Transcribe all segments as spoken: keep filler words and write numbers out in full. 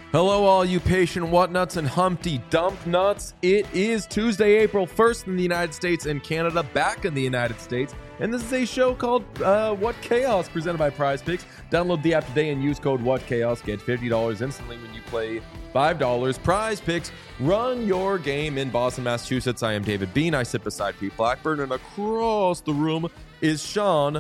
Hello, all you patient whatnuts and Humpty Dump nuts. It is Tuesday, April first in the United States and Canada, back in the United States. And this is a show called uh, What Chaos, presented by Prize Picks. Download the app today and use code What Chaos. Get fifty dollars instantly when you play five dollars. Prize Picks, run your game in Boston, Massachusetts. I am David Bean. I sit beside Pete Blackburn, and across the room is Sean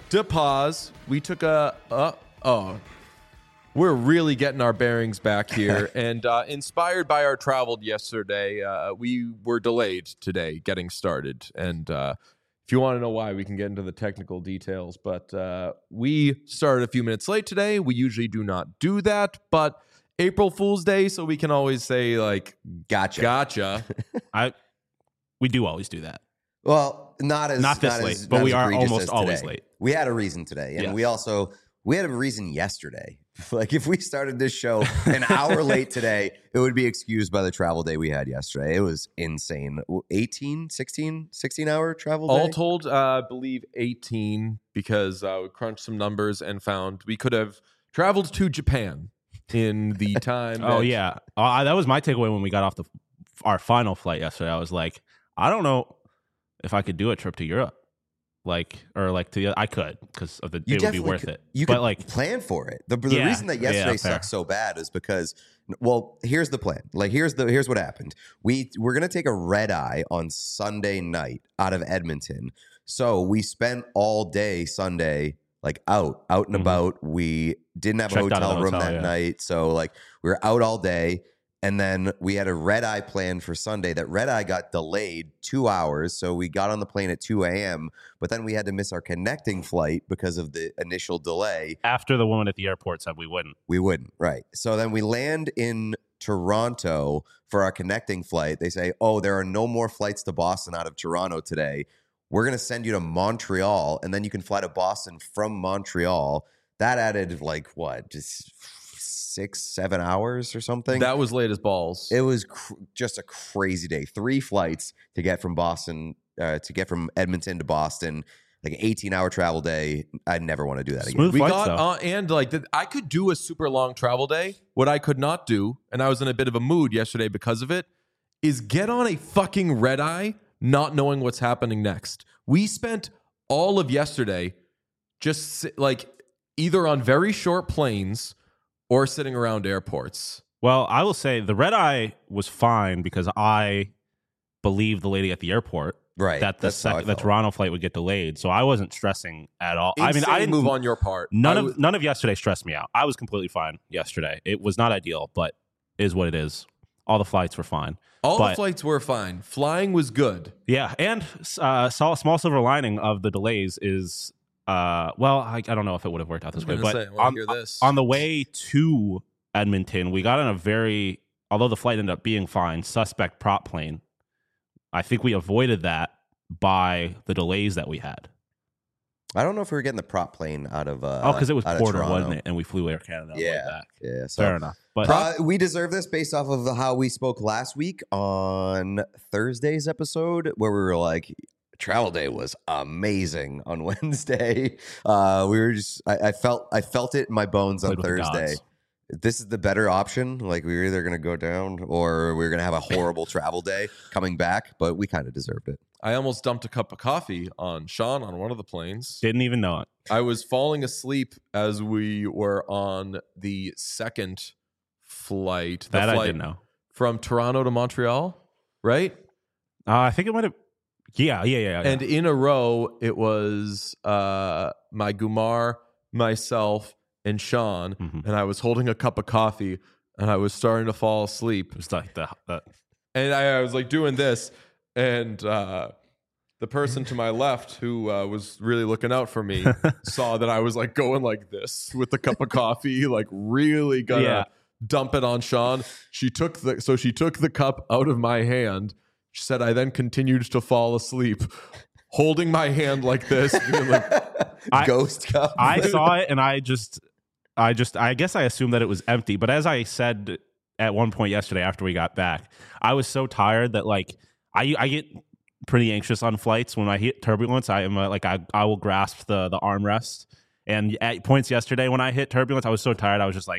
DePaz. We took a... Uh, oh... We're really getting our bearings back here, and uh, inspired by our travel yesterday, uh, we were delayed today getting started. And uh, if you want to know why, we can get into the technical details. But uh, we started a few minutes late today. We usually do not do that, but April Fool's Day, so we can always say, like, gotcha. Gotcha. I we do always do that. Well, not as not this not late, as, but not we as are egregious almost as always today. late. We had a reason today, and Yes. we also we had a reason yesterday. Like, if we started this show an hour late today, it would be excused by the travel day we had yesterday. It was insane. eighteen, sixteen, sixteen hour travel day? All told, uh, I believe eighteen, because uh, we crunched some numbers and found we could have traveled to Japan in the time. Oh that- yeah, uh, that was my takeaway when we got off the our final flight yesterday. I was like, I don't know if I could do a trip to Europe, like or like to the I could because of the You it would be definitely worth could, it. You but could like plan for it. The, the Yeah, reason that yesterday yeah, fair. sucked so bad is because, well, here's the plan. Like, here's the here's what happened. We we're gonna take a red eye on Sunday night out of Edmonton. So we spent all day Sunday like out, out and Mhm. about. We didn't have Checked a out of hotel the room hotel, that yeah. night, so like we were out all day. And then we had a red eye plan for Sunday. That red eye got delayed two hours. So we got on the plane at two a.m., but then we had to miss our connecting flight because of the initial delay. after the woman at the airport said we wouldn't. We wouldn't, right. So then we land in Toronto for our connecting flight. They say, oh, there are no more flights to Boston out of Toronto today. We're going to send you to Montreal, and then you can fly to Boston from Montreal. That added like, what, just six, seven hours or something? That was late as balls. It was cr- just a crazy day. Three flights to get from Boston, uh, to get from Edmonton to Boston, like an eighteen hour travel day. I never want to do that again. Smooth we flights, got though. uh, and like the, I could do a super long travel day. What I could not do, and I was in a bit of a mood yesterday because of it, is get on a fucking red eye, not knowing what's happening next. We spent all of yesterday just sit, like either on very short planes or sitting around airports. Well, I will say the red eye was fine because I believed the lady at the airport Right. that the That's how I sec- the felt. Toronto flight would get delayed, so I wasn't stressing at all. I mean, Insane I didn't move on your part. None I of w- none of yesterday stressed me out. I was completely fine yesterday. It was not ideal, but is what it is. All the flights were fine. all the but- flights were fine. Flying was good. Yeah, and uh, saw a small silver lining of the delays is, uh, well, I, I don't know if it would have worked out this I way, was but gonna say, I wanna on, hear this. on the way to Edmonton, we got on a very, although the flight ended up being fine, suspect prop plane. I think we avoided that by the delays that we had. I don't know if we were getting the prop plane out of uh Oh, because it was out of quarter, Toronto. wasn't it? And we flew Air Canada on the way Yeah. back. Yeah, so Fair enough. But uh, we deserve this based off of how we spoke last week on Thursday's episode, where we were like, travel day was amazing on Wednesday. Uh, we were just, I, I felt, I felt it in my bones on Played with the Thursday. gods. This is the better option. Like, we were either going to go down or we were going to have a horrible travel day coming back, but we kind of deserved it. I almost dumped a cup of coffee on Sean on one of the planes. didn't even know it. I was falling asleep as we were on the second flight. The That I flight didn't know. from Toronto to Montreal, right? Uh, I think it might have. Yeah, yeah, yeah. yeah. And in a row, it was uh, my Gumar, myself, and Sean. Mhm. And I was holding a cup of coffee, and I was starting to fall asleep. It was like the, the And I, I was like doing this, and uh, the person to my left who uh, was really looking out for me saw that I was like going like this with the cup of coffee, like really gonna Yeah. dump it on Sean. She took the so she took the cup out of my hand. She said I then continued to fall asleep, holding my hand like this, being like, I- Ghost cup. I saw it and I just, I just, I guess I assumed that it was empty. But as I said at one point yesterday after we got back, I was so tired that like I, I get pretty anxious on flights when I hit turbulence. I am uh, like I, I will grasp the the armrest. And at points yesterday when I hit turbulence, I was so tired. I was just like,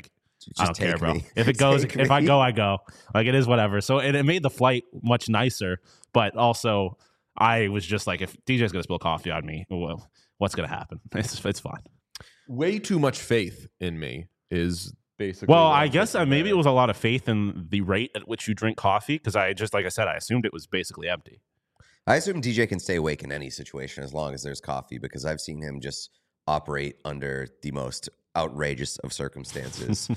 Just I don't care, take bro. me. If it goes, Take if I me. go, I go. Like, it is whatever. So it, it made the flight much nicer, but also I was just like, if D J's gonna spill coffee on me, well, what's gonna happen? It's it's fine. Way too much faith in me is basically. Well, what I I'm guess uh, thinking maybe there. it was a lot of faith in the rate at which you drink coffee, because I just, like I said, I assumed it was basically empty. I assume D J can stay awake in any situation as long as there's coffee, because I've seen him just operate under the most outrageous of circumstances.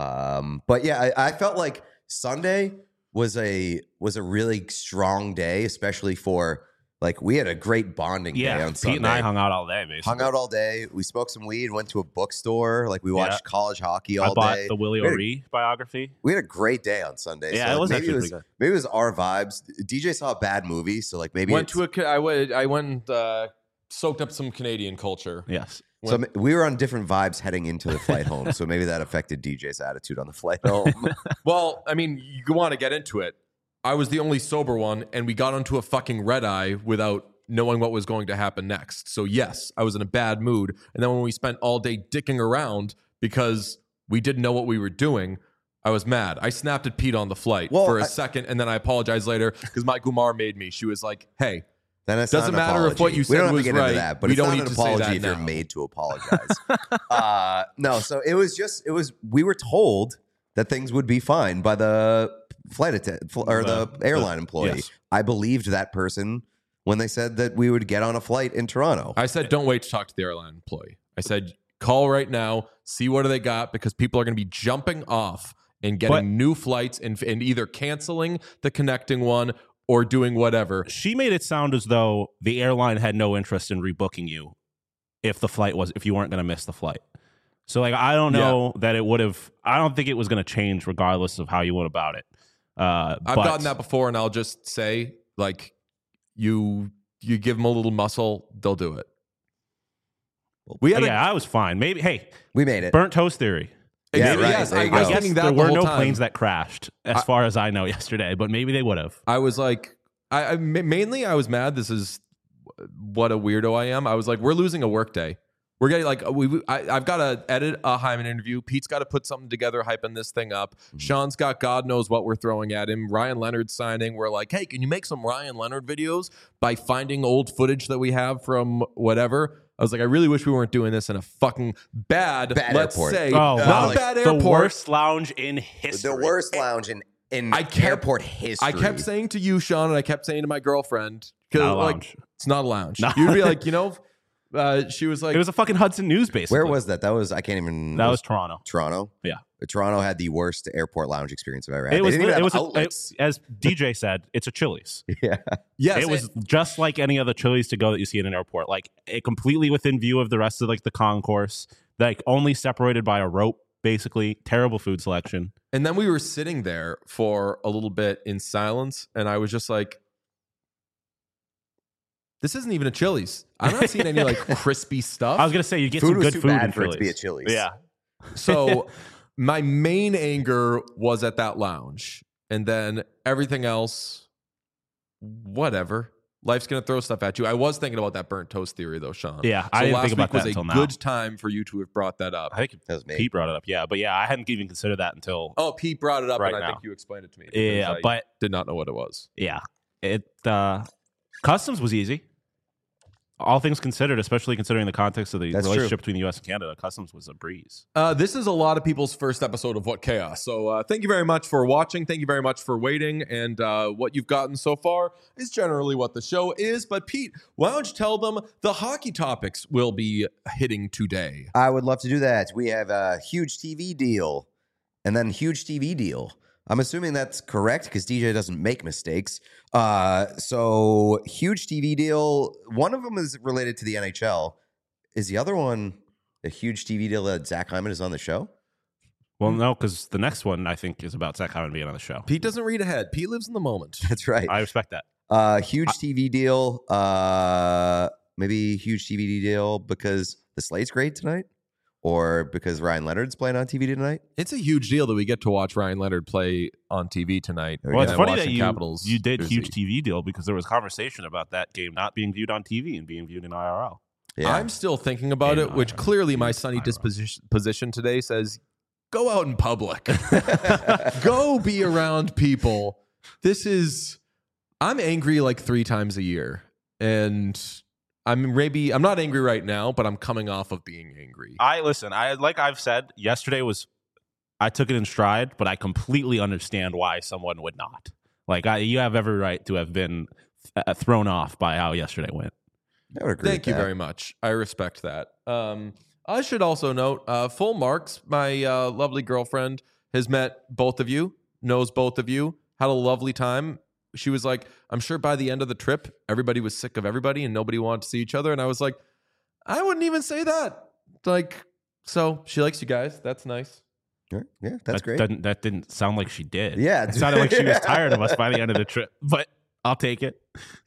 um, but yeah, I, I felt like Sunday was a was a really strong day, especially for like we had a great bonding day Yeah, on Pete Sunday. and I hung out all day, basically. Hung out all day. We smoked some weed. Went to a bookstore. Like we watched Yeah. college hockey I all bought day. the Willie We had a- O'Ree biography. We had a great day on Sunday. Yeah, so it like, was maybe actually it was pretty good. maybe it was our vibes. D J saw a bad movie, so like maybe went it's- to a. ca- I went. I went and uh, soaked up some Canadian culture. Yes. So m- we were on different vibes heading into the flight home. So maybe that affected D J's attitude on the flight home. Well, I mean, you want to get into it. I was the only sober one, and we got onto a fucking red eye without knowing what was going to happen next. So yes, I was in a bad mood. And then when we spent all day dicking around because we didn't know what we were doing, I was mad. I snapped at Pete on the flight Well, for a I- second, and then I apologized later because my Gumar made me. She was like, "Hey, Then it's Doesn't not an matter if what apology. you we said don't have was to get right. into that, but We it's don't not need an to say apology that if you're now. made to apologize. uh, no, so it was just it was we were told that things would be fine by the flight attendant or the, The- airline the- employee. yes. I believed that person when they said that we would get on a flight in Toronto. I said, don't wait to talk to the airline employee. I said, call right now, see what do they got, because people are going to be jumping off and getting But- new flights and, and either canceling the connecting one or doing whatever. She made it sound as though the airline had no interest in rebooking you if the flight was if you weren't going to miss the flight. So like I don't know that it would have. I don't think it was going to change regardless of how you went about it. Uh, I've but- gotten that before, and I'll just say, like, you you give them a little muscle, they'll do it. We had a, yeah, I was fine. Maybe hey, we made it. burnt toast theory. Yeah, maybe, right, yes, there I, you I was go. I guess thinking that there the were whole no time. planes that crashed, as I- far as I know, yesterday. But maybe they would have. I was like, I, I ma- mainly I was mad. This is what a weirdo I am. I was like, we're losing a work day. We're getting like we. we- I, I've got to edit a Hyman interview. Pete's got to put something together, hyping this thing up. Sean's got God knows what we're throwing at him. Ryan Leonard signing. We're like, hey, can you make some Ryan Leonard videos by finding old footage that we have from whatever? I was like, I really wish we weren't doing this in a fucking bad, Bad let's airport. say, Oh, not wow. a like bad The airport. worst lounge in history. The worst lounge in, in I kept- airport history. I kept saying to you, Sean, and I kept saying to my girlfriend, 'cause, Not a like, lounge. it's not a lounge. No. You'd be like, you know, uh, she was like, It was a fucking Hudson News, basically. Where was that? That was I can't even. that? Was Toronto. Toronto. Yeah. Toronto had the worst airport lounge experience I've ever had. It They was. didn't even It have was. A, outlets. it, as D J said, it's a Chili's. yeah. yes, It was just like any other Chili's to go that you see in an airport, like it completely within view of the rest of like the concourse, like only separated by a rope. Basically, terrible food selection. And then we were sitting there for a little bit in silence, and I was just like, this isn't even a Chili's. I'm not seeing any like crispy stuff. I was gonna say you get Food some was good too food bad in for it to be a Chili's. Chili's. Yeah, So my main anger was at that lounge. And then everything else, whatever. Life's going to throw stuff at you. I was thinking about that burnt toast theory, though, Sean. Yeah, so I didn't last think about week was that a until now. good time for you to have brought that up. I think That was me. Pete brought it up. Yeah, but yeah, I hadn't even considered that until Oh, Pete brought it up, Right and I now. think you explained it to me. because yeah. I But did not know what it was. yeah, it uh, customs was easy. All things considered, especially considering the context of the That's relationship true. between the U S and Canada, customs was a breeze. Uh, this is a lot of people's first episode of What Chaos. So uh, thank you very much for watching. Thank you very much for waiting. And uh, what you've gotten so far is generally what the show is. But Pete, why don't you tell them the hockey topics will be hitting today? I would love to do that. We have a huge T V deal and then huge T V deal. I'm assuming that's correct because D J doesn't make mistakes. Uh, so huge T V deal. One of them is related to the N H L. Is the other one a huge T V deal that Zach Hyman is on the show? Well, no, because the next one I think is about Zach Hyman being on the show. Pete doesn't read ahead. Pete lives in the moment. That's right. I respect that. Uh, huge T V deal. Uh, maybe huge T V deal because the slate's great tonight, or because Ryan Leonard's playing on T V tonight. It's a huge deal that we get to watch Ryan Leonard play on T V tonight. Well, Well, and it's then funny that watching you, Capitals you did jersey. huge T V deal because there was conversation about that game not being viewed on T V and being viewed in I R L. Yeah, I'm still thinking about Yeah, it, which I- clearly my I- sunny I- disposition position today says go out in public. Go be around people. This is, I'm angry like three times a year. And I'm maybe, I'm not angry right now, but I'm coming off of being angry. I listen, I like I've said, yesterday was, I took it in stride, but I completely understand why someone would not. Like, I, you have every right to have been uh, thrown off by how yesterday went. I would agree Thank with you that. very much. I respect that. Um, I should also note, uh, full marks, my uh, lovely girlfriend has met both of you, knows both of you, had a lovely time. She was like, I'm sure by the end of the trip, everybody was sick of everybody and nobody wanted to see each other. And I was like, I wouldn't even say that. Like, so she likes you guys. That's nice. Yeah, yeah, that's that great. Doesn't, that didn't sound like she did. Yeah. It sounded like she was tired of us by the end of the trip, but I'll take it.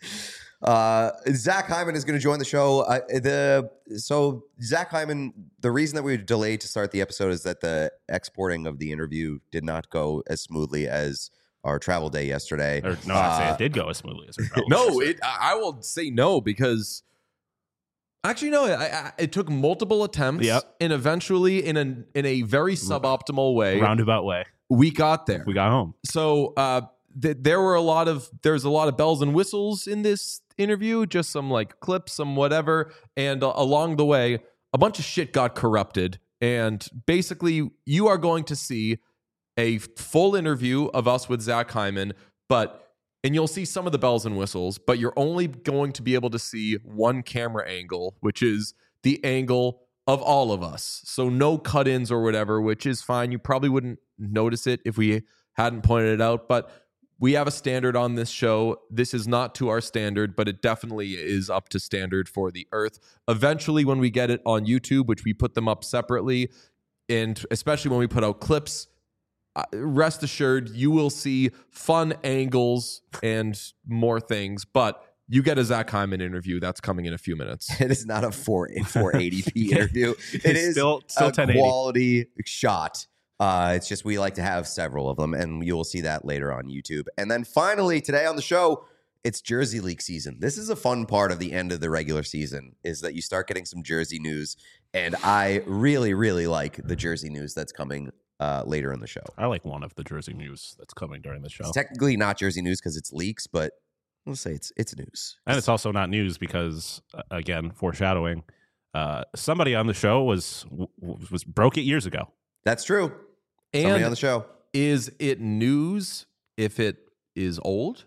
Uh, Zach Hyman is going to join the show. Uh, the so Zach Hyman. The reason that we delayed to start the episode is that the exporting of the interview did not go as smoothly as our travel day yesterday. Or, no, I'd say Uh, it did go as smoothly as it No, it, I will say no because actually, no, I, I, it took multiple attempts. Yep. And eventually, in a, in a very suboptimal way, roundabout way. we got there. We got home. So uh, th- there were a lot of there's a lot of bells and whistles in this interview, just some like clips, some whatever, and uh, along the way, a bunch of shit got corrupted. And basically, you are going to see a full interview of us with Zach Hyman, but and you'll see some of the bells and whistles, but you're only going to be able to see one camera angle, which is the angle of all of us. So no cut-ins or whatever, which is fine. You probably wouldn't notice it if we hadn't pointed it out, but we have a standard on this show. This is not to our standard, but it definitely is up to standard for the Earth. Eventually, when we get it on YouTube, which we put them up separately, and especially when we put out clips, uh, rest assured, you will see fun angles and more things, but you get a Zach Hyman interview. That's coming in a few minutes. It is not a four eighty p interview. It It's is still- still a ten eighty. quality shot. Uh, it's just we like to have several of them, and you will see that later on YouTube. And then finally, today on the show, it's Jersey League season. This is a fun part of the end of the regular season, is that you start getting some Jersey news, and I really, really like the Jersey news that's coming uh, later in the show. I like one of the Jersey news that's coming during the show. It's technically not Jersey news because it's leaks, but we'll say it's it's news. And it's also not news because, uh, again, foreshadowing, uh, somebody on the show was w- was broke it years ago. That's true. Somebody And on the show. is it news if it is old?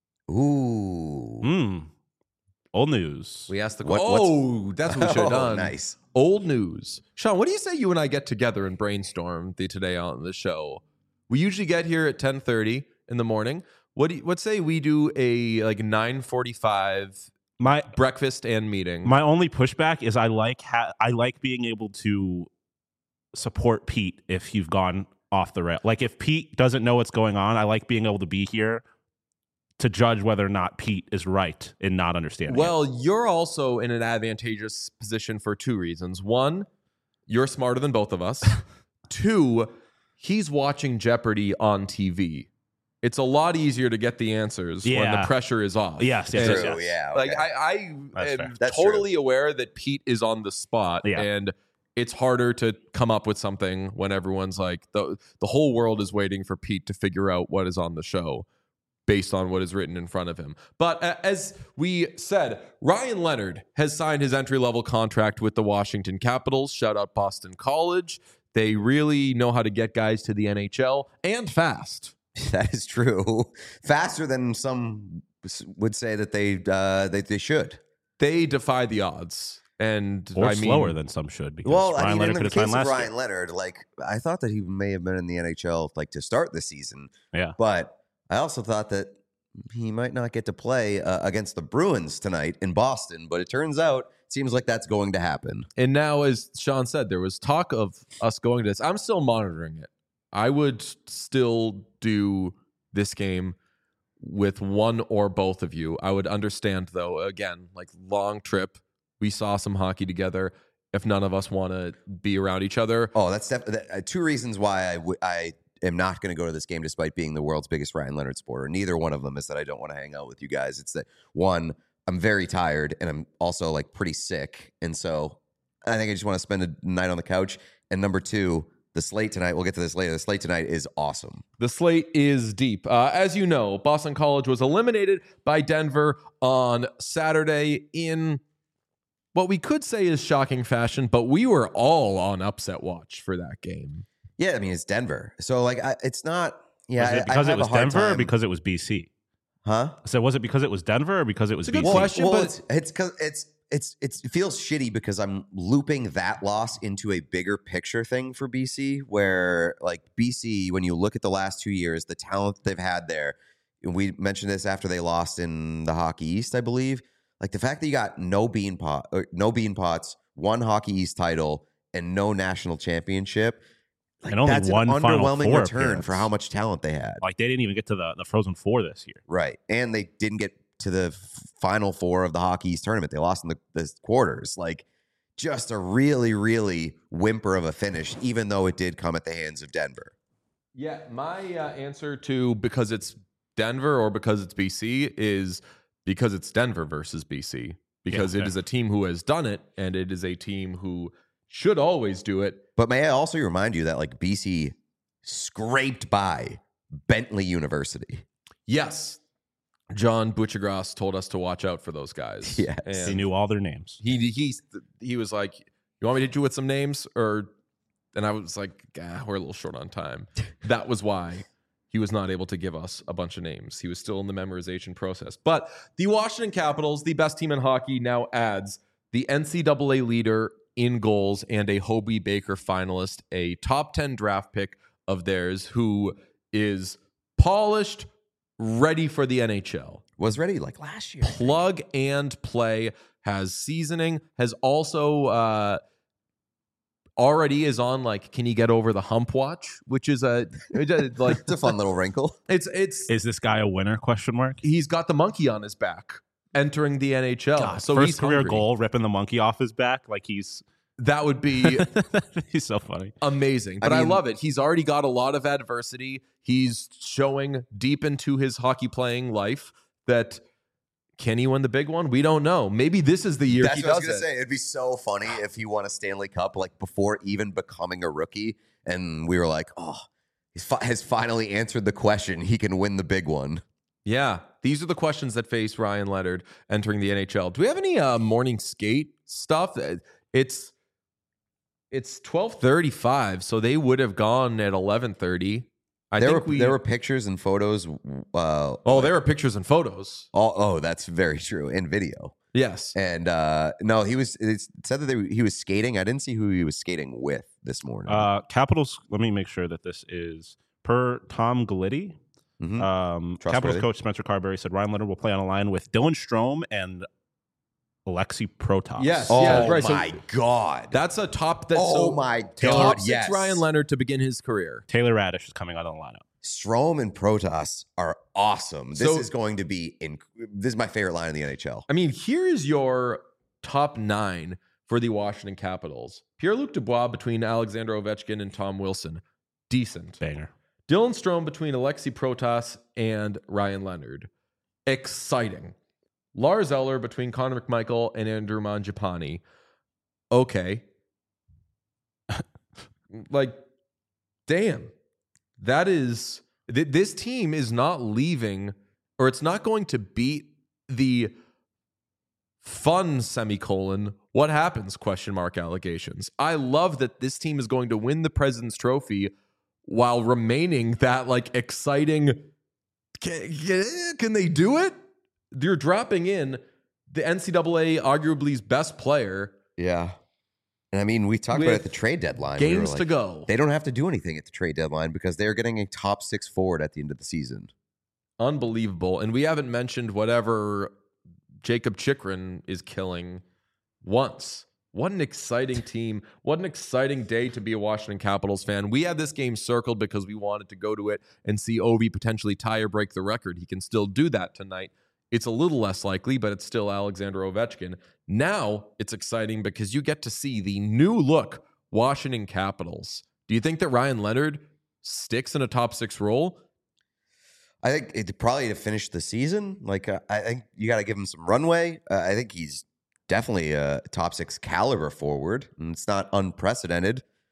Ooh. Hmm. Old news. We asked the What- question. Oh, that's what we should have Oh, done. nice. Old news. Sean, what do you say you and I get together and brainstorm the today on the show? We usually get here at ten thirty in the morning. What do you, what say we do a like nine forty-five My breakfast and meeting? my only pushback is I like ha- I like being able to support Pete if you've gone off the rail. Like if Pete doesn't know what's going on, I like being able to be here to judge whether or not Pete is right in not understanding. it. Well, you're also in an advantageous position for two reasons. One, you're smarter than both of us. Two, he's watching Jeopardy on T V. It's a lot easier to get the answers when Yeah. the pressure is off. Yes, yes, And- yes, True, yeah. Like okay. I, I That's am fair. That's totally aware that Pete is on the spot, Yeah. and it's harder to come up with something when everyone's like the the whole world is waiting for Pete to figure out what is on the show based on what is written in front of him. But uh, as we said, Ryan Leonard has signed his entry level contract with the Washington Capitals. Shout out Boston College. They really know how to get guys to the N H L and fast. That is true. Faster than some would say that they uh, they, they should. They defy the odds. And or I mean, slower than some should because Well, Ryan I mean, Leonard in could the have signed case of last Ryan year. Leonard, like I thought that he may have been in the N H L like to start the season, Yeah. but I also thought that he might not get to play uh, against the Bruins tonight in Boston. But it turns out, it seems like that's going to happen. And now, as Sean said, there was talk of us going to this. I'm still monitoring it. I would still do this game with one or both of you. I would understand, though, again, like long trip. We saw some hockey together. If none of us want to be around each other, Oh, that's def- that, uh, two reasons why I w- I am not going to go to this game despite being the world's biggest Ryan Leonard supporter. Neither one of them is that I don't want to hang out with you guys. It's that, one, I'm very tired and I'm also like pretty sick. And so I think I just want to spend a night on the couch. And number two, the slate tonight, we'll get to this later. The slate tonight is awesome. The slate is deep. Uh, as you know, Boston College was eliminated by Denver on Saturday in what we could say is shocking fashion, but we were all on upset watch for that game. Yeah, I mean, it's Denver. So, like, I, it's not... Yeah, was it I- I because have it was a hard Denver or time- because it was B C? Huh? So was it because it was Denver or because it was It's a B C? good question. Well, but- it's it's because it's it's it's it feels shitty because I'm looping that loss into a bigger picture thing for B C, where like B C, when you look at the last two years, the talent they've had there, and we mentioned this after they lost in the Hockey East, I believe. Like the fact that you got no bean pot, or no bean pots, one Hockey East title, and no national championship. Like, And only that's one an Final underwhelming Four return appearance. for how much talent they had. Like they didn't even get to the, the Frozen Four this year. Right. And they didn't get to the f- final four of the Hockey East tournament. They lost in the, the quarters. Like, just a really, really whimper of a finish, even though it did come at the hands of Denver. Yeah, my uh, answer to because it's Denver or because it's B C is because it's Denver versus B C. Because Yeah, it okay. is a team who has done it, and it is a team who should always do it. But may I also remind you that, like, B C scraped by Bentley University. Yes, John Butchergrass told us to watch out for those guys. Yes. And He knew all their names. He he he was like, "You want me to hit you with some names?" Or, and I was like, "Ah, we're a little short on time." That was why he was not able to give us a bunch of names. He was still in the memorization process. But the Washington Capitals, the best team in hockey, now adds the N C double A leader in goals and a Hobie Baker finalist, a top ten draft pick of theirs, who is polished, ready for the N H L. Was ready like last year. Plug and play, has seasoning, has also uh, already is on like, can you get over the hump watch, which is a like It's a fun little wrinkle. it's it's Is this guy a winner? Question mark. he's got the monkey on his back entering the N H L. God, so first he's career hungry. goal, ripping the monkey off his back like he's That would be he's so funny. amazing. But I I, mean- love it. He's already got a lot of adversity. He's showing deep into his hockey playing life that can he win the big one? We don't know. Maybe this is the year That's he what I was does gonna it. say. It'd be so funny if he won a Stanley Cup like before even becoming a rookie, and we were like, "Oh, he's fi- has finally answered the question. He can win the big one." Yeah, these are the questions that face Ryan Leonard entering the N H L. Do we have any uh, morning skate stuff? Uh, It's it's twelve thirty-five, so they would have gone at eleven thirty. I there think were we. there were pictures and photos. Uh, oh, there were pictures and photos. oh, oh, that's very true. In video, Yes. and uh, no, he was. It said that they, he was skating. I didn't see who he was skating with this morning. Uh, Capitals. Let me make sure that this is per Tom Gliddy. Mhm. Um, Trustworthy. Capitals coach Spencer Carberry said Ryan Leonard will play on a line with Dylan Strome and Alexei Protas. Yes. oh yeah, right. So my god! That's a top. That's oh so my top god! six Yes, Ryan Leonard to begin his career. Taylor Radish is coming out of the lineup. Strom and Protas are awesome. This So- is going to be in. This is my favorite line in the N H L. I mean, here is your top nine for the Washington Capitals. Pierre-Luc Dubois between Alexander Ovechkin and Tom Wilson. Decent. Banger. Dylan Strome between Alexei Protas and Ryan Leonard. Exciting. Lars Eller between Connor McMichael and Andrew Mangiapane. Okay. Like, damn. That is... Th- this team is not leaving, or it's not going to beat the fun semicolon what happens question mark allegations. I love that this team is going to win the President's Trophy while remaining that like exciting can, can they do it? You're dropping in the N C double A arguably's best player, Yeah, and I mean we talked With about it at the trade deadline. We were games to like, go. They don't have to do anything at the trade deadline because they're getting a top six forward at the end of the season. Unbelievable. And we haven't mentioned whatever Jacob Chikrin is killing once. What an exciting team. What an exciting day to be a Washington Capitals fan. We had this game circled because we wanted to go to it and see Ovi potentially tie or break the record. He can still do that tonight. It's a little less likely, but it's still Alexander Ovechkin. Now it's exciting because you get to see the new look Washington Capitals. Do you think that Ryan Leonard sticks in a top six role? I think it probably to finish the season. Like uh, I think you got to give him some runway. Uh, I think he's definitely a top six caliber forward, and it's not unprecedented.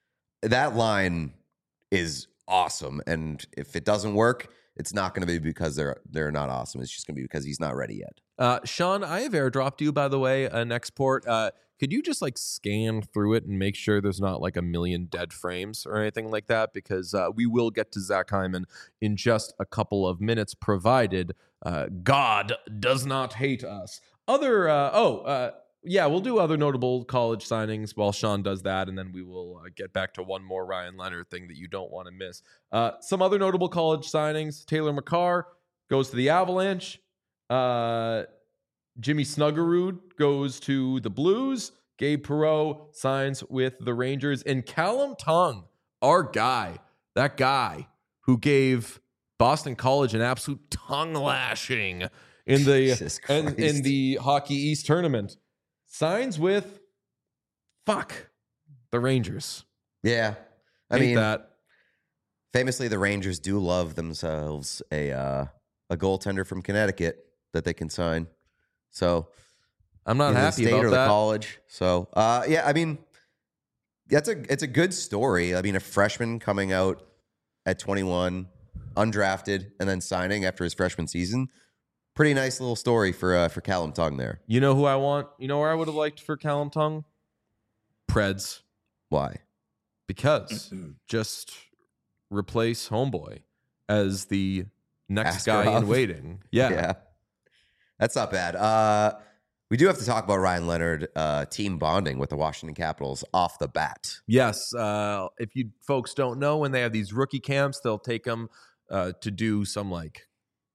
that line is awesome. And if it doesn't work, it's not going to be because they're they're not awesome. It's just going to be because he's not ready yet. Uh, Sean, I have airdropped you, by the way, an export. Uh, could you just like scan through it and make sure there's not like a million dead frames or anything like that? Because uh, we will get to Zach Hyman in just a couple of minutes, provided uh, God does not hate us. Other, uh, oh, uh, yeah, we'll do other notable college signings while Sean does that, and then we will uh, get back to one more Ryan Leonard thing that you don't want to miss. Uh, some other notable college signings: Taylor McCarr goes to the Avalanche. Uh, Jimmy Snuggerud goes to the Blues. Gabe Perreault signs with the Rangers. And Callum Tongue, our guy, that guy who gave Boston College an absolute tongue lashing in the in, in the Hockey East tournament, signs with fuck the Rangers. Yeah, I Hate mean that. Famously, the Rangers do love themselves a uh, a goaltender from Connecticut that they can sign. So I'm not either the happy state about or that. the college. So uh, yeah, I mean that's a it's a good story. I mean, a freshman coming out at twenty-one, undrafted, and then signing after his freshman season. Pretty nice little story for uh, for Callum Tongue there. You know who I want? You know where I would have liked for Callum Tongue? Preds. Why? Because just replace Homeboy as the next guy in Askarov. waiting. Yeah. Yeah. That's not bad. Uh, we do have to talk about Ryan Leonard uh, team bonding with the Washington Capitals off the bat. Yes. Uh, if you folks don't know, when they have these rookie camps, they'll take them uh, to do some like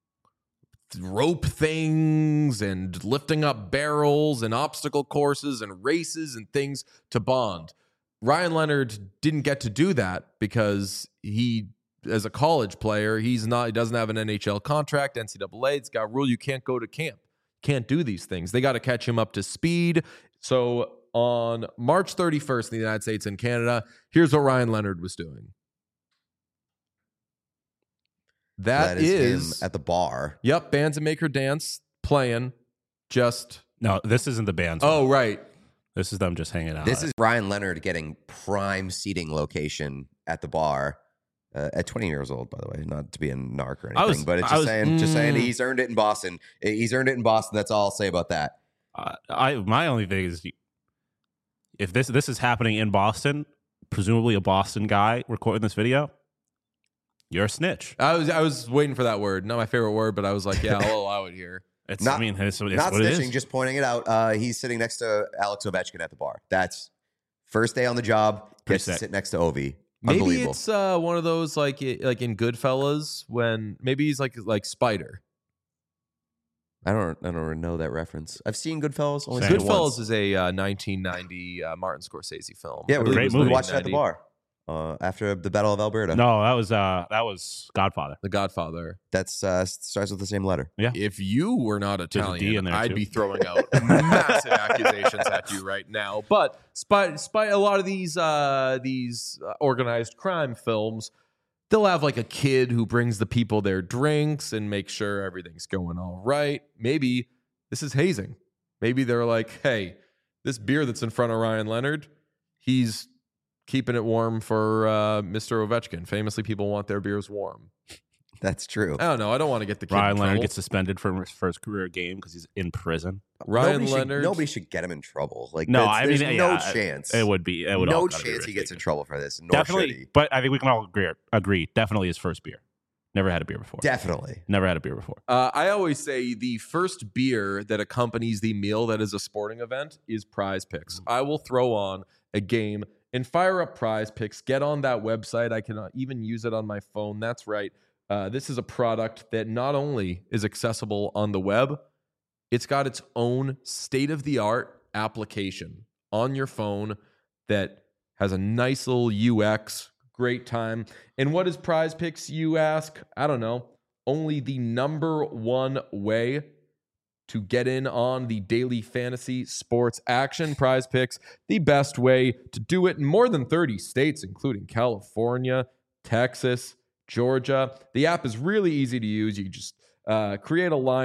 rope things and lifting up barrels and obstacle courses and races and things to bond. Ryan Leonard didn't get to do that because he, as a college player, he's not, he doesn't have an N H L contract. N C double A, it's got a rule you can't go to camp, can't do these things. They got to catch him up to speed. So on March thirty-first in the United States and Canada, here's what Ryan Leonard was doing. That, that is, is him at the bar. Yep, Bands and Make Her Dance playing. Just No, this isn't the band's. oh one. right, This is them just hanging out. This is Ryan Leonard getting prime seating location at the bar uh, at twenty years old, by the way. Not to be a narc or anything, I was- but it's I just was- saying, just saying Mm. he's earned it in Boston. He's earned it in Boston. That's all I'll say about that. Uh, I my only thing is, if this this is happening in Boston, presumably a Boston guy recording this video, you're a snitch. I was I was waiting for that word. Not my favorite word, but I was like, yeah, I'll allow it here. It's Not- I mean, it's, it's Not what it snitching, is. just pointing it out. Uh, he's sitting next to Alex Ovechkin at the bar. That's first day on the job. Pretty Gets to sick. sit next to Ovi. Maybe Unbelievable. it's uh, one of those like like in Goodfellas when maybe he's like like Spider. I don't. I don't know that reference. I've seen Goodfellas. Only Same. seen it Goodfellas once. is a uh, nineteen ninety uh, Martin Scorsese film. Yeah, I we, believe Great it was we movie. watched it at the nineteen ninety. bar uh, after the Battle of Alberta. No, that was uh that was Godfather. The Godfather. That's uh, starts with the same letter. If you were not a D Italian, in there, I'd too. be throwing out massive accusations at you right now. But spite, despite a lot of these uh, these uh, organized crime films, they'll have like a kid who brings the people their drinks and makes sure everything's going all right. Maybe this is hazing. Maybe they're like, hey, this beer that's in front of Ryan Leonard, he's keeping it warm for uh, Mister Ovechkin. Famously, people want their beers warm. That's true. I don't know. I don't want to get the kid Ryan in Leonard trouble. gets suspended from his first career game because he's in prison. Ryan nobody Leonard. Should, nobody should get him in trouble. Like No, that's- I mean, there's yeah, no I- chance. It would be. It would no all gotta be chance he gets in ridiculous. trouble for this. Nor should Definitely, he. but I think we can all agree. Agree. Definitely his first beer. Never had a beer before. Definitely. Never had a beer before. Uh, I always say the first beer that accompanies the meal that is a sporting event is Prize Picks. I will throw on a game and fire up Prize Picks. Get on that website. I can uh, even use it on my phone. That's right. Uh, this is a product that not only is accessible on the web, it's got its own state-of-the-art application on your phone that has a nice little U X, great time. And what is Prize Picks, you ask? I don't know. Only the number one way to get in on the daily fantasy sports action. Prize Picks, the best way to do it in more than thirty states, including California, Texas, Georgia. The app is really easy to use. You just uh, create a lineup,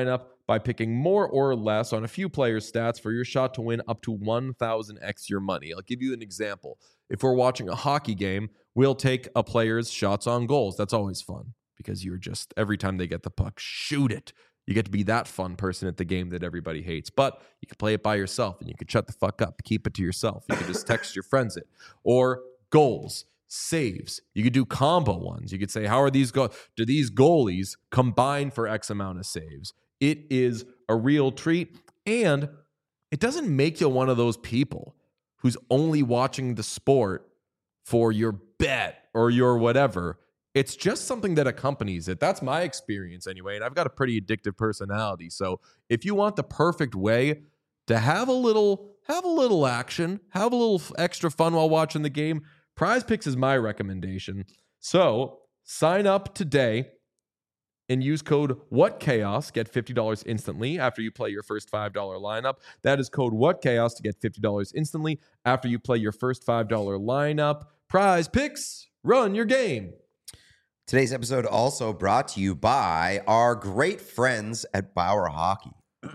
by picking more or less on a few players' stats for your shot to win up to one thousand x your money. I'll give you an example. If we're watching a hockey game, we'll take a player's shots on goals. That's always fun because you're just, every time they get the puck, shoot it. You get to be that fun person at the game that everybody hates. But you can play it by yourself and you can shut the fuck up. Keep it to yourself. You can just text your friends it. Or goals, saves. You could do combo ones. You could say, how are these go? Do these goalies combine for X amount of saves? It is a real treat. And it doesn't make you one of those people who's only watching the sport for your bet or your whatever. It's just something that accompanies it. That's my experience anyway. And I've got a pretty addictive personality. So if you want the perfect way to have a little, have a little action, have a little extra fun while watching the game, Prize Picks is my recommendation. So sign up today and use code WhatChaos. Get fifty dollars instantly after you play your first five dollars lineup. That is code WhatChaos to get fifty dollars instantly after you play your first five dollars lineup. Prize Picks, run your game. Today's episode also brought to you by our great friends at Bauer Hockey.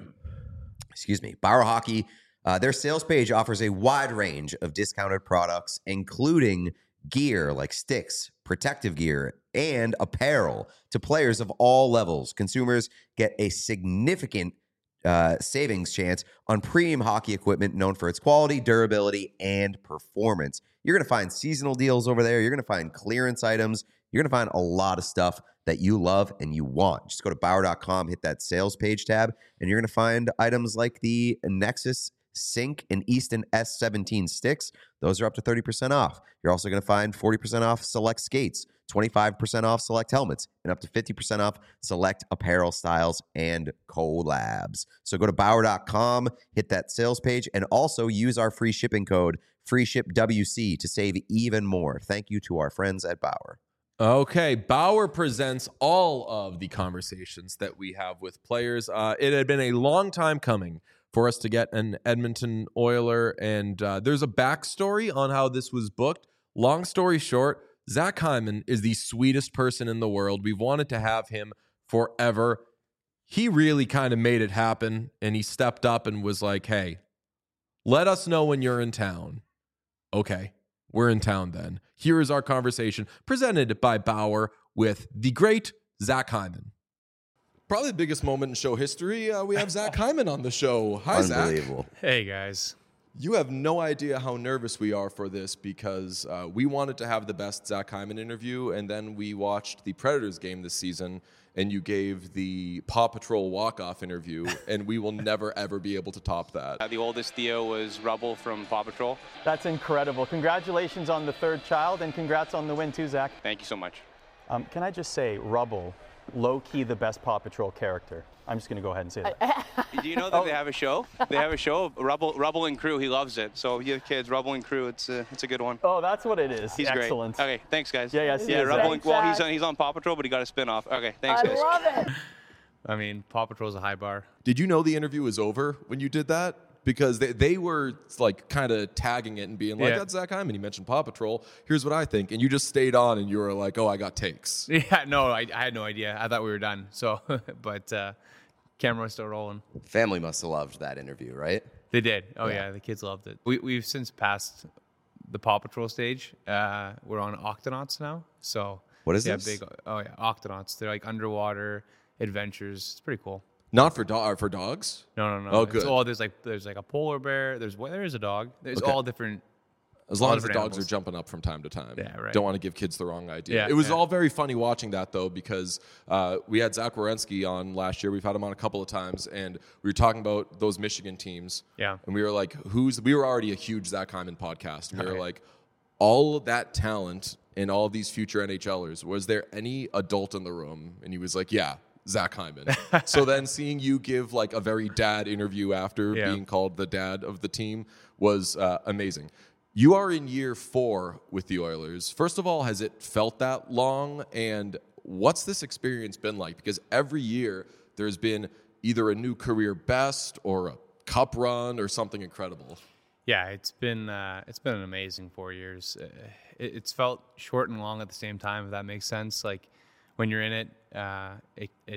Excuse me. Bauer Hockey, uh, their sales page offers a wide range of discounted products, including gear like sticks, protective gear, and apparel to players of all levels. Consumers get a significant uh, savings chance on premium hockey equipment known for its quality, durability, and performance. You're going to find seasonal deals over there. You're going to find clearance items. You're going to find a lot of stuff that you love and you want. Just go to Bauer dot com, hit that sales page tab, and you're going to find items like the Nexus Sync and Easton S seventeen sticks. Those are up to thirty percent off. You're also going to find forty percent off select skates, twenty-five percent off select helmets, and up to fifty percent off select apparel styles and collabs. So go to Bauer dot com, hit that sales page, and also use our free shipping code, FreeShipWC, to save even more. Thank you to our friends at Bauer. Okay, Bauer presents all of the conversations that we have with players. Uh, it had been a long time coming for us to get an Edmonton Oiler, and uh, there's a backstory on how this was booked. Long story short, Zach Hyman is the sweetest person in the world. We've wanted to have him forever. He really kind of made it happen, and he stepped up and was like, hey, let us know when you're in town. Okay. We're in town then. Here is our conversation presented by Bauer with the great Zach Hyman. Probably the biggest moment in show history. Uh, we have Zach Hyman on the show. Hi, Unbelievable. Zach. Hey, guys. You have no idea how nervous we are for this because uh, we wanted to have the best Zach Hyman interview, and then we watched the Predators game this season, and you gave the Paw Patrol walk-off interview, and we will never, ever be able to top that. Uh, the oldest Theo was Rubble from Paw Patrol. That's incredible. Congratulations on the third child, and congrats on the win too, Zach. Thank you so much. Um, can I just say, Rubble, low-key the best Paw Patrol character. I'm just going to go ahead and say that. Do you know that oh. they have a show? They have a show, Rubble, Rubble and Crew. He loves it. So if you have kids, Rubble and Crew, it's a, it's a good one. Oh, that's what it is. He's excellent. Great. Okay, thanks, guys. Yeah, yeah, yeah. Rubble and, well, he's on, he's on Paw Patrol, but he got a spin-off. Okay, thanks, I guys. love it. I mean, Paw Patrol's a high bar. Did you know the interview was over when you did that? Because they, they were like kind of tagging it and being like, Yeah. that's Zach Hyman. He mentioned Paw Patrol. Here's what I think. And you just stayed on and you were like, oh, I got takes. Yeah, no, I, I had no idea. I thought we were done. So, but uh, camera was still rolling. Family must have loved that interview, right? They did. Oh Yeah. yeah, the kids loved it. We we've since passed the Paw Patrol stage. Uh, we're on Octonauts now. So What is yeah, this? big. Oh yeah, Octonauts. They're like underwater adventures. It's pretty cool. Not for, do- uh, for dogs? No, no, no. Oh, It's good. all there's like there's like a polar bear. There's well, there is a dog. There's Okay. all different. As long All as the different dogs animals. are jumping up from time to time. Yeah, right. Don't want to give kids the wrong idea. Yeah, it was yeah. all very funny watching that, though, because uh, we had Zach Wierenski on last year. We've had him on a couple of times, and we were talking about those Michigan teams. Yeah. And we were like, who's, we were already a huge Zach Hyman podcast. And we were Okay. like, all of that talent and all of these future N H Lers, was there any adult in the room? And he was like, yeah, Zach Hyman. So then seeing you give like a very dad interview after Yeah. being called the dad of the team was uh, amazing. You are in year four with the Oilers. First of all, has it felt that long? And what's this experience been like? Because every year there's been either a new career best or a cup run or something incredible. Yeah, it's been uh, it's been an amazing four years. Uh, it, it's felt short and long at the same time, if that makes sense. Like when you're in it, uh, it it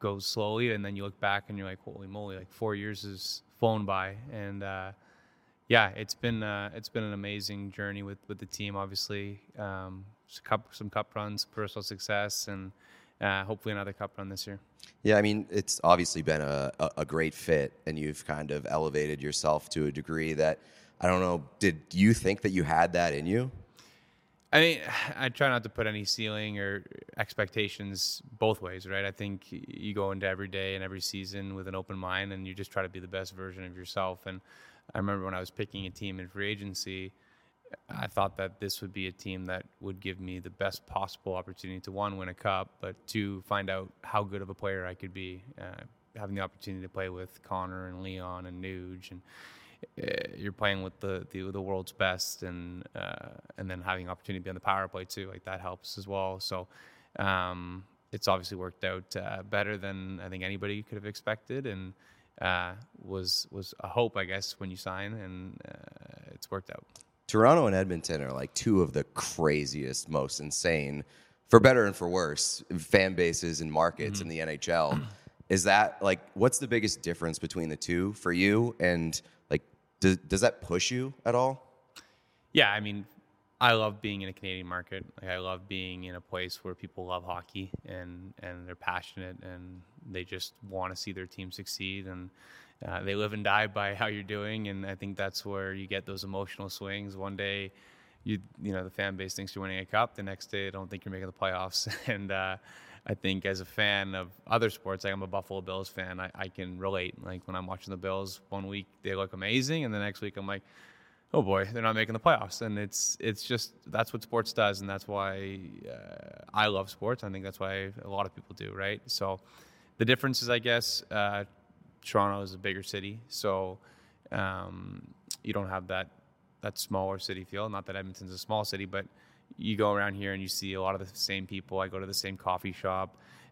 goes slowly, and then you look back and you're like, holy moly, like four years has flown by. And uh, yeah, it's been uh, it's been an amazing journey with, with the team. Obviously, um, some cup, some cup runs, personal success, and uh, hopefully another cup run this year. Yeah, I mean, it's obviously been a, a, a great fit, and you've kind of elevated yourself to a degree that, I don't know, did you think that you had that in you? I mean, I try not to put any ceiling or expectations both ways, right? I think you go into every day and every season with an open mind, and you just try to be the best version of yourself. And I remember when I was picking a team in free agency, I thought that this would be a team that would give me the best possible opportunity to, one, win a cup, but two, find out how good of a player I could be. Uh, having the opportunity to play with Connor and Leon and Nuge, and uh, you're playing with the, the the world's best, and uh, and then having the opportunity to be on the power play too, like that helps as well. So um, it's obviously worked out uh, better than I think anybody could have expected, and uh, was was a hope, I guess, when you sign, and uh, it's worked out. Toronto and Edmonton are like two of the craziest, most insane, for better and for worse, fan bases and markets mm-hmm. in the N H L. Is that like, what's the biggest difference between the two for you? And like, does, does that push you at all? Yeah, I mean, I love being in a Canadian market. Like, I love being in a place where people love hockey and, and they're passionate and they just want to see their team succeed. And Uh, they live and die by how you're doing, and I think that's where you get those emotional swings. One day, you you know the fan base thinks you're winning a cup. The next day, they don't think you're making the playoffs. And uh, I think as a fan of other sports, like I'm a Buffalo Bills fan, I, I can relate. Like when I'm watching the Bills, one week they look amazing, and the next week I'm like, oh boy, they're not making the playoffs. And it's it's just that's what sports does, and that's why uh, I love sports. I think that's why a lot of people do, right? So the difference is, I guess. Uh, Toronto is a bigger city, so um, you don't have that that smaller city feel. Not that Edmonton's a small city, but you go around here and you see a lot of the same people. I go to the same coffee shop.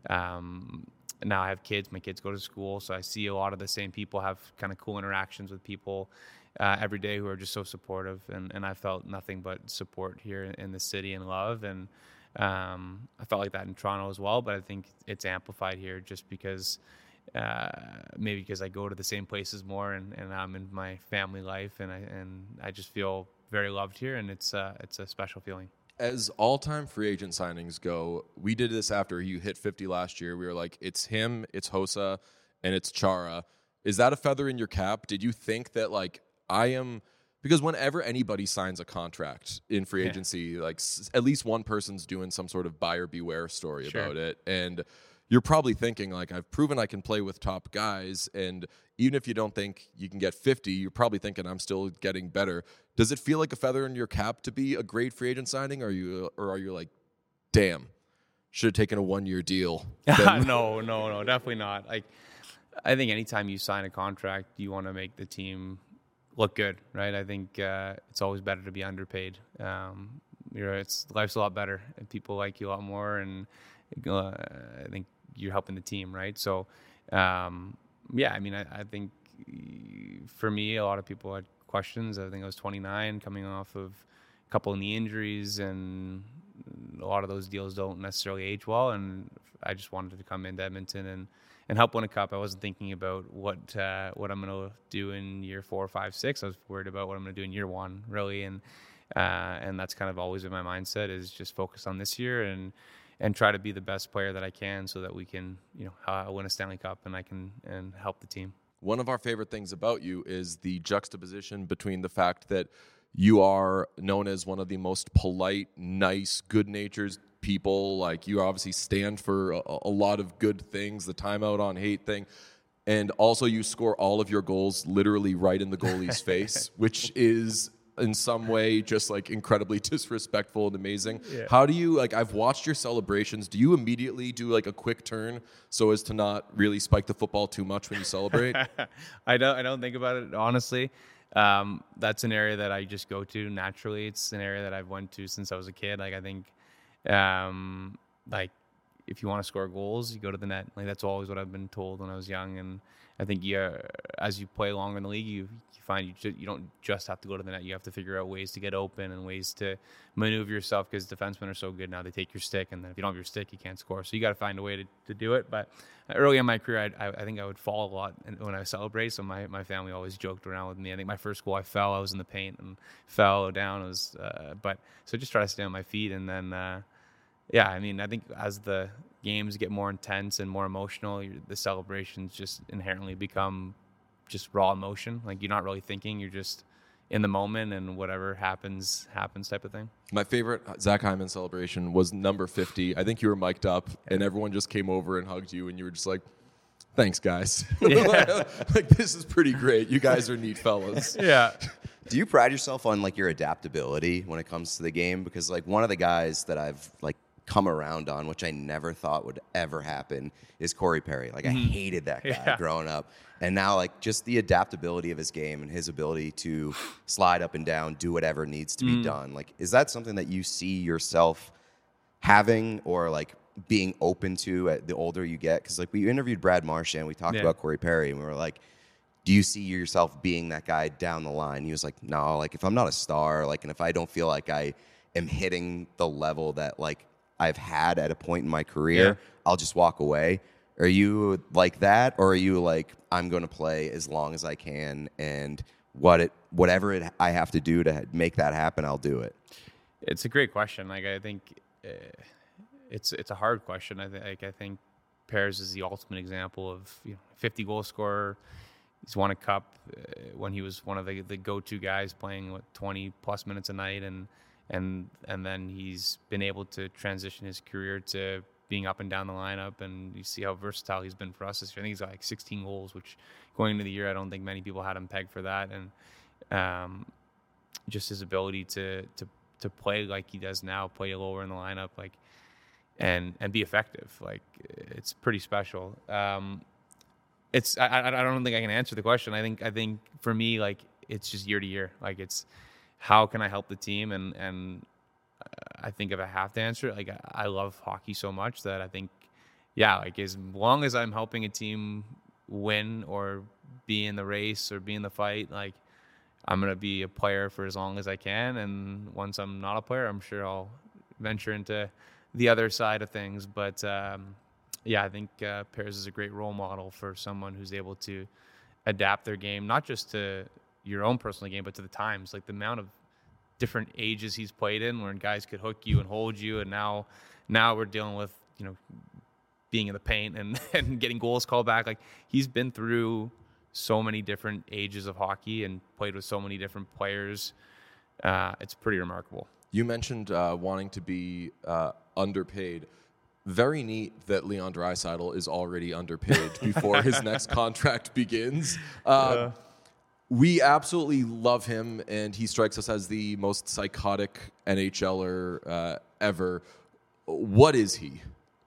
Um, now I have kids. My kids go to school, so I see a lot of the same people, have kind of cool interactions with people uh, every day who are just so supportive. And, and I felt nothing but support here in the city and love. And um, I felt like that in Toronto as well, but I think it's amplified here just because Uh, maybe because I go to the same places more, and, and I'm in my family life, and I and I just feel very loved here, and it's uh, it's a special feeling. As all-time free agent signings go, we did this after you hit fifty last year. We were like, it's him, it's Hossa, and it's Chara. Is that a feather in your cap? Did you think that, like, I am... Because whenever anybody signs a contract in free Yeah. agency, like, s- at least one person's doing some sort of buyer beware story Sure. about it, and you're probably thinking, like, I've proven I can play with top guys, and even if you don't think you can get fifty, you're probably thinking I'm still getting better. Does it feel like a feather in your cap to be a great free agent signing, or are you, or are you like, damn, should have taken a one-year deal? no, no, no, definitely not. Like, I think anytime you sign a contract, you want to make the team look good, right? I think uh, it's always better to be underpaid. Um, you know, it's life's a lot better, and people like you a lot more, and uh, I think you're helping the team, right? So, um, yeah, I mean, I, I think for me, a lot of people had questions. I think I was twenty-nine, coming off of a couple of knee injuries, and a lot of those deals don't necessarily age well. And I just wanted to come into Edmonton and, and help win a cup. I wasn't thinking about what uh, what I'm going to do in year four, five, six. I was worried about what I'm going to do in year one, really. And uh, and that's kind of always been my mindset, is just focus on this year and and try to be the best player that I can, so that we can, you know, uh, win a Stanley Cup, and I can and help the team. One of our favorite things about you is the juxtaposition between the fact that you are known as one of the most polite, nice, good-natured people. Like, you obviously stand for a, a lot of good things, the timeout on hate thing. And also you score all of your goals literally right in the goalie's face, which is in some way just like incredibly disrespectful and amazing. Yeah. How do you, like, I've watched your celebrations. Do you immediately do like a quick turn so as to not really spike the football too much when you celebrate? I don't, I don't think about it, honestly. Um, that's an area that I just go to naturally. It's an area that I've went to since I was a kid. Like, I think, um, like if you want to score goals, you go to the net. Like that's always what I've been told when I was young. And I think yeah, as you play longer in the league, you, you find you ju- you don't just have to go to the net. You have to figure out ways to get open and ways to maneuver yourself, because defensemen are so good now. They take your stick, and then if you don't have your stick, you can't score. So you got to find a way to, to do it. But early in my career, I, I, I think I would fall a lot when I celebrate. So my, my family always joked around with me. I think my first goal, I fell. I was in the paint and fell down. It was, uh, but so just try to stay on my feet, and then. Uh, Yeah, I mean, I think as the games get more intense and more emotional, the celebrations just inherently become just raw emotion. Like you're not really thinking, you're just in the moment, and whatever happens, happens type of thing. My favorite Zach Hyman celebration was number fifty. I think you were mic'd up, and everyone just came over and hugged you, and you were just like, thanks, guys. Yeah. Like, this is pretty great. You guys are neat fellas. Yeah. Do you pride yourself on like your adaptability when it comes to the game? Because like one of the guys that I've like come around on, which I never thought would ever happen, is Corey Perry. Like I hated that guy Yeah. growing up. And now like just the adaptability of his game and his ability to slide up and down, do whatever needs to be done. Like, is that something that you see yourself having or like being open to at the older you get? Because like we interviewed Brad Marchand, we talked Yeah. about Corey Perry, and we were like, do you see yourself being that guy down the line? He was like, no, like if I'm not a star, like, and if I don't feel like I am hitting the level that like I've had at a point in my career, Yeah. I'll just walk away. Are you like that? Or are you like, I'm going to play as long as I can, and what it, whatever it, I have to do to make that happen, I'll do it? It's a great question. Like I think uh, it's it's a hard question. I think like, I think Pears is the ultimate example of, you know, fifty goal scorer. He's won a cup uh, when he was one of the, the go-to guys, playing what, twenty plus minutes a night, and and and then he's been able to transition his career to being up and down the lineup, and you see how versatile he's been for us this year. I think he's got like sixteen goals, which going into the year, I don't think many people had him pegged for that, and um, just his ability to to to play like he does now, play lower in the lineup, like and and be effective, like it's pretty special. Um, It's I, I I don't think I can answer the question. I think I think for me, like it's just year to year. Like it's how can I help the team, and and I think if I have to answer it, like I, I love hockey so much that I think, yeah, like as long as I'm helping a team win or be in the race or be in the fight, like I'm gonna be a player for as long as I can. And once I'm not a player, I'm sure I'll venture into the other side of things. But um, yeah, I think uh, Pears is a great role model for someone who's able to adapt their game, not just to your own personal game, but to the times. Like the amount of different ages he's played in, where guys could hook you and hold you, and now, now we're dealing with, you know, being in the paint and, and getting goals called back. Like he's been through so many different ages of hockey and played with so many different players. Uh, it's pretty remarkable. You mentioned uh, wanting to be uh, underpaid. Very neat that Leon Draisaitl is already underpaid before his next contract begins. Uh, Yeah. We absolutely love him, and he strikes us as the most psychotic NHLer uh, ever. What is he?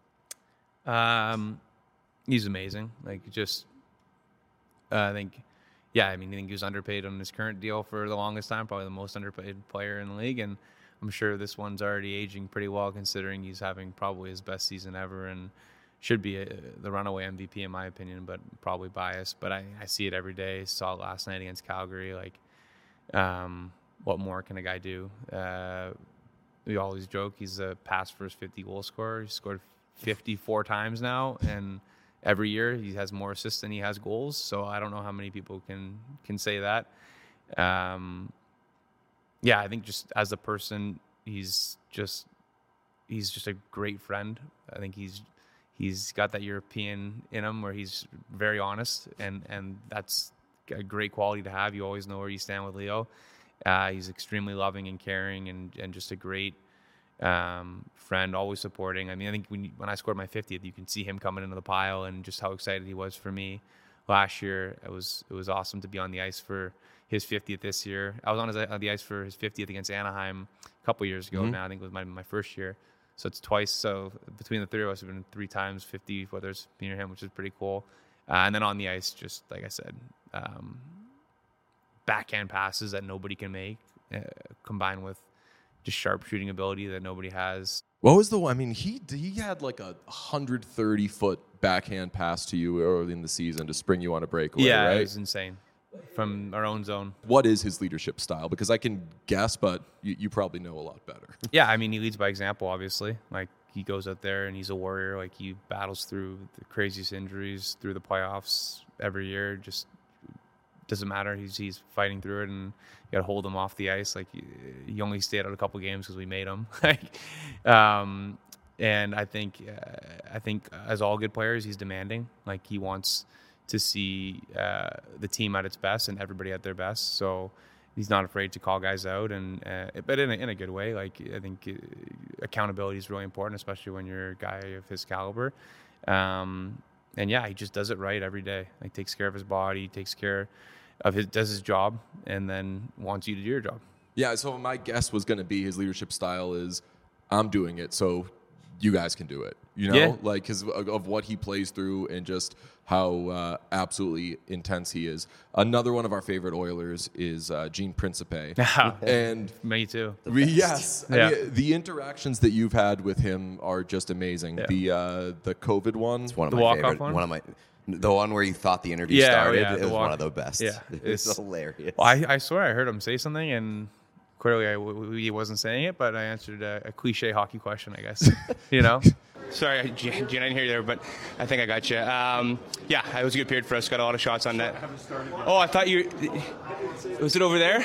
Um, he's amazing. Like just, uh, I think, yeah, I mean, I think he was underpaid on his current deal for the longest time, probably the most underpaid player in the league. And I'm sure this one's already aging pretty well, considering he's having probably his best season ever and should be a, the runaway M V P in my opinion, but probably biased. But I, I see it every day. Saw it last night against Calgary. Like, um, what more can a guy do? Uh, we always joke he's a pass first fifty goal scorer. He scored fifty-four times now, and every year he has more assists than he has goals. So I don't know how many people can can say that. Um, yeah, I think just as a person, he's just he's just a great friend. I think he's he's got that European in him where he's very honest, and and that's a great quality to have. You always know where you stand with Leo. Uh, he's extremely loving and caring, and and just a great um, friend, always supporting. I mean, I think when when I scored my fiftieth, you can see him coming into the pile and just how excited he was for me last year. It was it was awesome to be on the ice for his fiftieth this year. I was on, his, on the ice for his fiftieth against Anaheim a couple years ago. Mm-hmm. Now I think it was my my first year, so it's twice. So between the three of us, have been three times fifty, whether it's me or him, which is pretty cool. Uh, and then on the ice, just like I said, um, backhand passes that nobody can make, uh, combined with just sharp shooting ability that nobody has. What was the one? I mean, he he had like a one hundred thirty foot backhand pass to you early in the season to spring you on a breakaway, Yeah, right? it was insane from our own zone. What is his leadership style? Because I can guess, but you, you probably know a lot better. Yeah, I mean, he leads by example, obviously. Like, he goes out there and he's a warrior. Like, he battles through the craziest injuries through the playoffs every year. Just doesn't matter. He's he's fighting through it, and you got to hold him off the ice. Like, he only stayed out a couple games because we made him. um, and I think uh, I think as all good players, he's demanding. Like, he wants to see uh, the team at its best and everybody at their best. So he's not afraid to call guys out, and uh, but in a, in a good way. Like, I think uh, accountability is really important, especially when you're a guy of his caliber. Um, and yeah, he just does it right every day. Like, takes care of his body, takes care of his, does his job, and then wants you to do your job. Yeah, so my guess was going to be his leadership style is, I'm doing it, so you guys can do it. You know, Yeah. like because of, of what he plays through and just how uh, absolutely intense he is. Another one of our favorite Oilers is uh, Gene Principe. And Me too. we, yes, I Yeah. mean, the interactions that you've had with him are just amazing. Yeah. The uh, the COVID one. It's one of The my walk-off favorite. one? One of my, the one where you thought the interview Yeah, oh, started. yeah, it the was one walk- of the best. yeah, It's it's- hilarious. Well, I, I swear I heard him say something, and clearly I w- w- he wasn't saying it, but I answered a, a cliche hockey question, I guess. You know? Sorry, Gene, I didn't hear you there, but I think I got you. Um, yeah, it was a good period for us. Got a lot of shots on net. Oh, I thought you. Was it over there?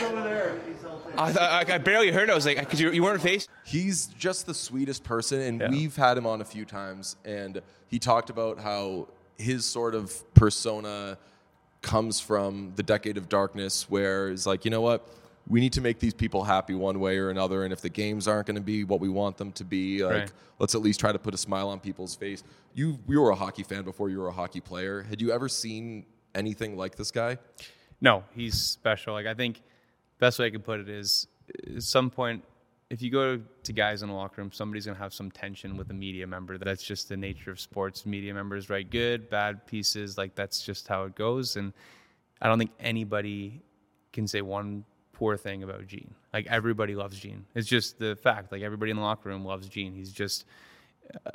I, thought, I barely heard it. I was like, because you, you weren't faced. He's just the sweetest person, and Yeah. we've had him on a few times, and he talked about how his sort of persona comes from the Decade of Darkness, where it's like, you know what, we need to make these people happy one way or another, and if the games aren't going to be what we want them to be, like, Right. let's at least try to put a smile on people's face. You, you were a hockey fan before you were a hockey player. Had you ever seen anything like this guy? No, he's special. Like, I think best way I could put it is, at some point, if you go to guys in the locker room, somebody's going to have some tension with a media member. That's just the nature of sports. Media members write good, bad pieces. Like, that's just how it goes. And I don't think anybody can say one poor thing about Gene. Like, everybody loves Gene. It's just the fact. Like, everybody in the locker room loves Gene. He's just, uh,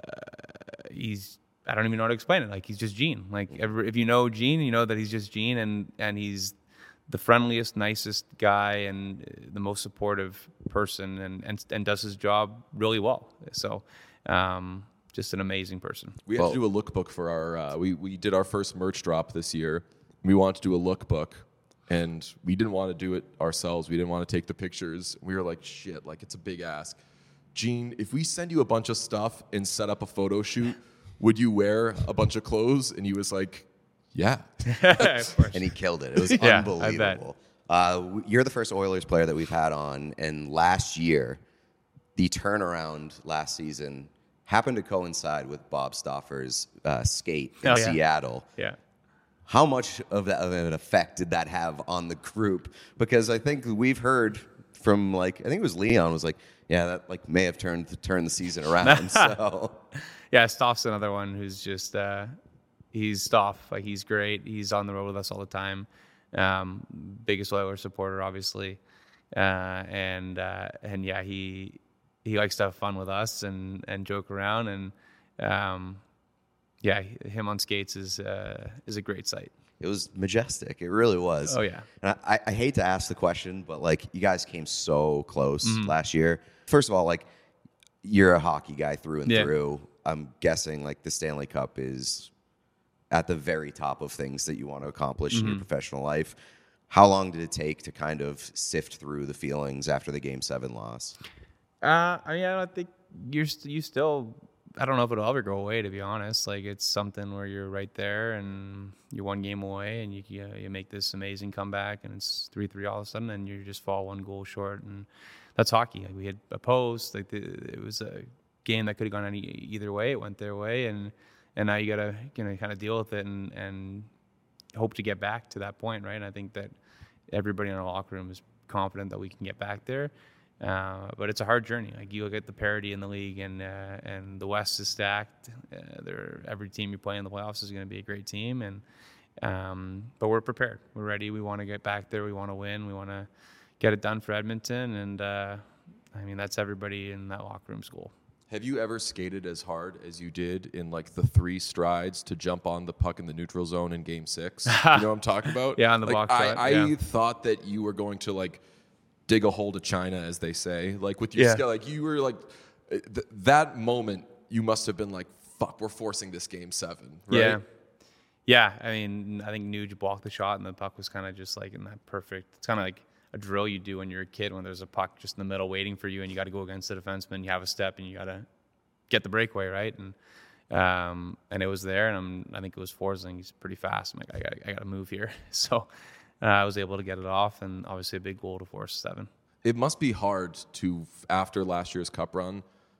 he's, I don't even know how to explain it. Like, he's just Gene. Like, every, if you know Gene, you know that he's just Gene, and, and he's the friendliest, nicest guy and the most supportive person, and, and, and does his job really well. So, um, just an amazing person. We had Well- to do a lookbook for our. Uh, we we did our first merch drop this year. We wanted to do a lookbook, and we didn't want to do it ourselves. We didn't want to take the pictures. We were like, shit, like it's a big ask. Gene, if we send you a bunch of stuff and set up a photo shoot, would you wear a bunch of clothes? And he was like, yeah. Of course. And he killed it. It was Yeah, I bet. unbelievable. Uh, w- you're the first Oilers player that we've had on, and last year, the turnaround last season happened to coincide with Bob Stauffer's uh, skate in Oh, yeah. Seattle. Yeah. How much of, that, of an effect did that have on the group? Because I think we've heard from, like, I think it was Leon was like, yeah, that like may have turned turned the season around. So Yeah, Stoff's another one who's just uh, he's Stoff. Like, he's great. He's on the road with us all the time. Um, biggest Oilers supporter, obviously, uh, and uh, and yeah, he he likes to have fun with us and and joke around, and um, yeah, him on skates is uh, is a great sight. it was majestic. It really was. Oh, yeah. And I, I hate to ask the question, but like you guys came so close Mm-hmm. last year. First of all, like you're a hockey guy through and Yeah. through. I'm guessing like the Stanley Cup is at the very top of things that you want to accomplish Mm-hmm. in your professional life. How long did it take to kind of sift through the feelings after the Game Seven loss? Uh, I mean, I don't think you're st- you still. I don't know if it'll ever go away. To be honest, like it's something where you're right there and you're one game away, and you you, you make this amazing comeback, and it's three three all of a sudden, and you just fall one goal short, and that's hockey. Like we had a post, like the, it was a game that could have gone any either way. It went their way, and and now you gotta you know kind of deal with it and and hope to get back to that point, right? And I think that everybody in our locker room is confident that we can get back there. Uh, but it's a hard journey. Like you look at the parity in the league, and uh, and the West is stacked. Uh, there, every team you play in the playoffs is going to be a great team, and um, but we're prepared. We're ready. We want to get back there. We want to win. We want to get it done for Edmonton, and uh, I mean that's everybody in that locker room school. Have you ever skated as hard as you did in like the three strides to jump on the puck in the neutral zone in Game Six? You know what I'm talking about? Yeah, on the like, box I, shot, I yeah. thought that you were going to like dig a hole to China, as they say. Like with your Yeah. skill, like you were like th- that moment. You must have been like, "Fuck, we're forcing this Game Seven." Right? Yeah. Yeah, I mean, I think Nuge blocked the shot, and the puck was kind of just like in that perfect. It's kind of like a drill you do when you're a kid, when there's a puck just in the middle waiting for you, and you got to go against the defenseman. You have a step, and you got to get the breakaway, right? And um, and it was there, and I'm, I think it was Forsling. He's pretty fast. I'm like, I got, I got to move here. So uh, I was able to get it off, and obviously a big goal to force seven. It must be hard to, after last year's Cup run,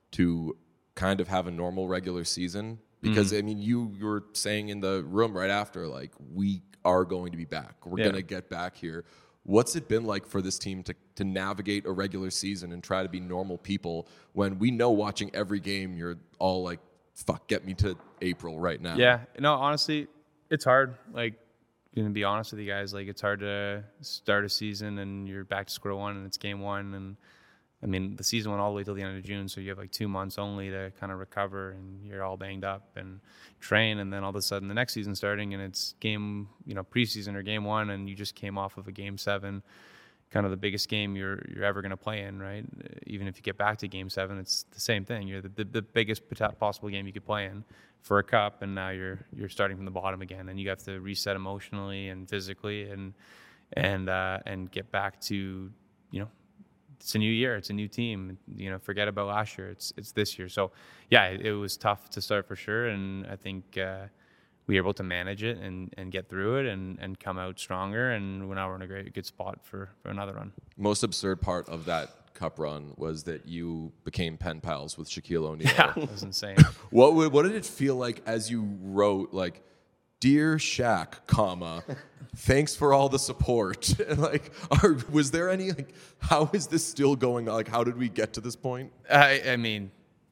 to kind of have a normal regular season. Because, mm. I mean, you, you were saying in the room right after, like, we are going to be back. We're yeah. going to get back here. What's it been like for this team to, to navigate a regular season and try to be normal people when we know watching every game you're all like, fuck, get me to April right now? Yeah. No, honestly, it's hard. Like, going to be honest with you guys, like, it's hard to start a season and you're back to square one and it's game one. And, I mean, the season went all the way till the end of June, so you have like two months only to kind of recover, and you're all banged up and train, and then all of a sudden the next season starting, and it's game, you know, preseason or game one, and you just came off of a game seven, kind of the biggest game you're you're ever going to play in, right? Even if you get back to game seven, it's the same thing. You're the, the, the biggest possible game you could play in for a cup, and now you're you're starting from the bottom again, and you have to reset emotionally and physically, and and uh, and get back to, you know, it's a new year. It's a new team. You know, forget about last year. It's it's this year. So, yeah, it, it was tough to start for sure. And I think uh, we were able to manage it and, and get through it and, and come out stronger. And now we're in a great good spot for, for another run. Most absurd part of that Cup run was that you became pen pals with Shaquille O'Neal. Yeah, it was insane. What would, what did it feel like as you wrote, like, "Dear Shaq, comma, thanks for all the support"? And like, are, was there any like, how is this still going on? Like, how did we get to this point? I, I mean,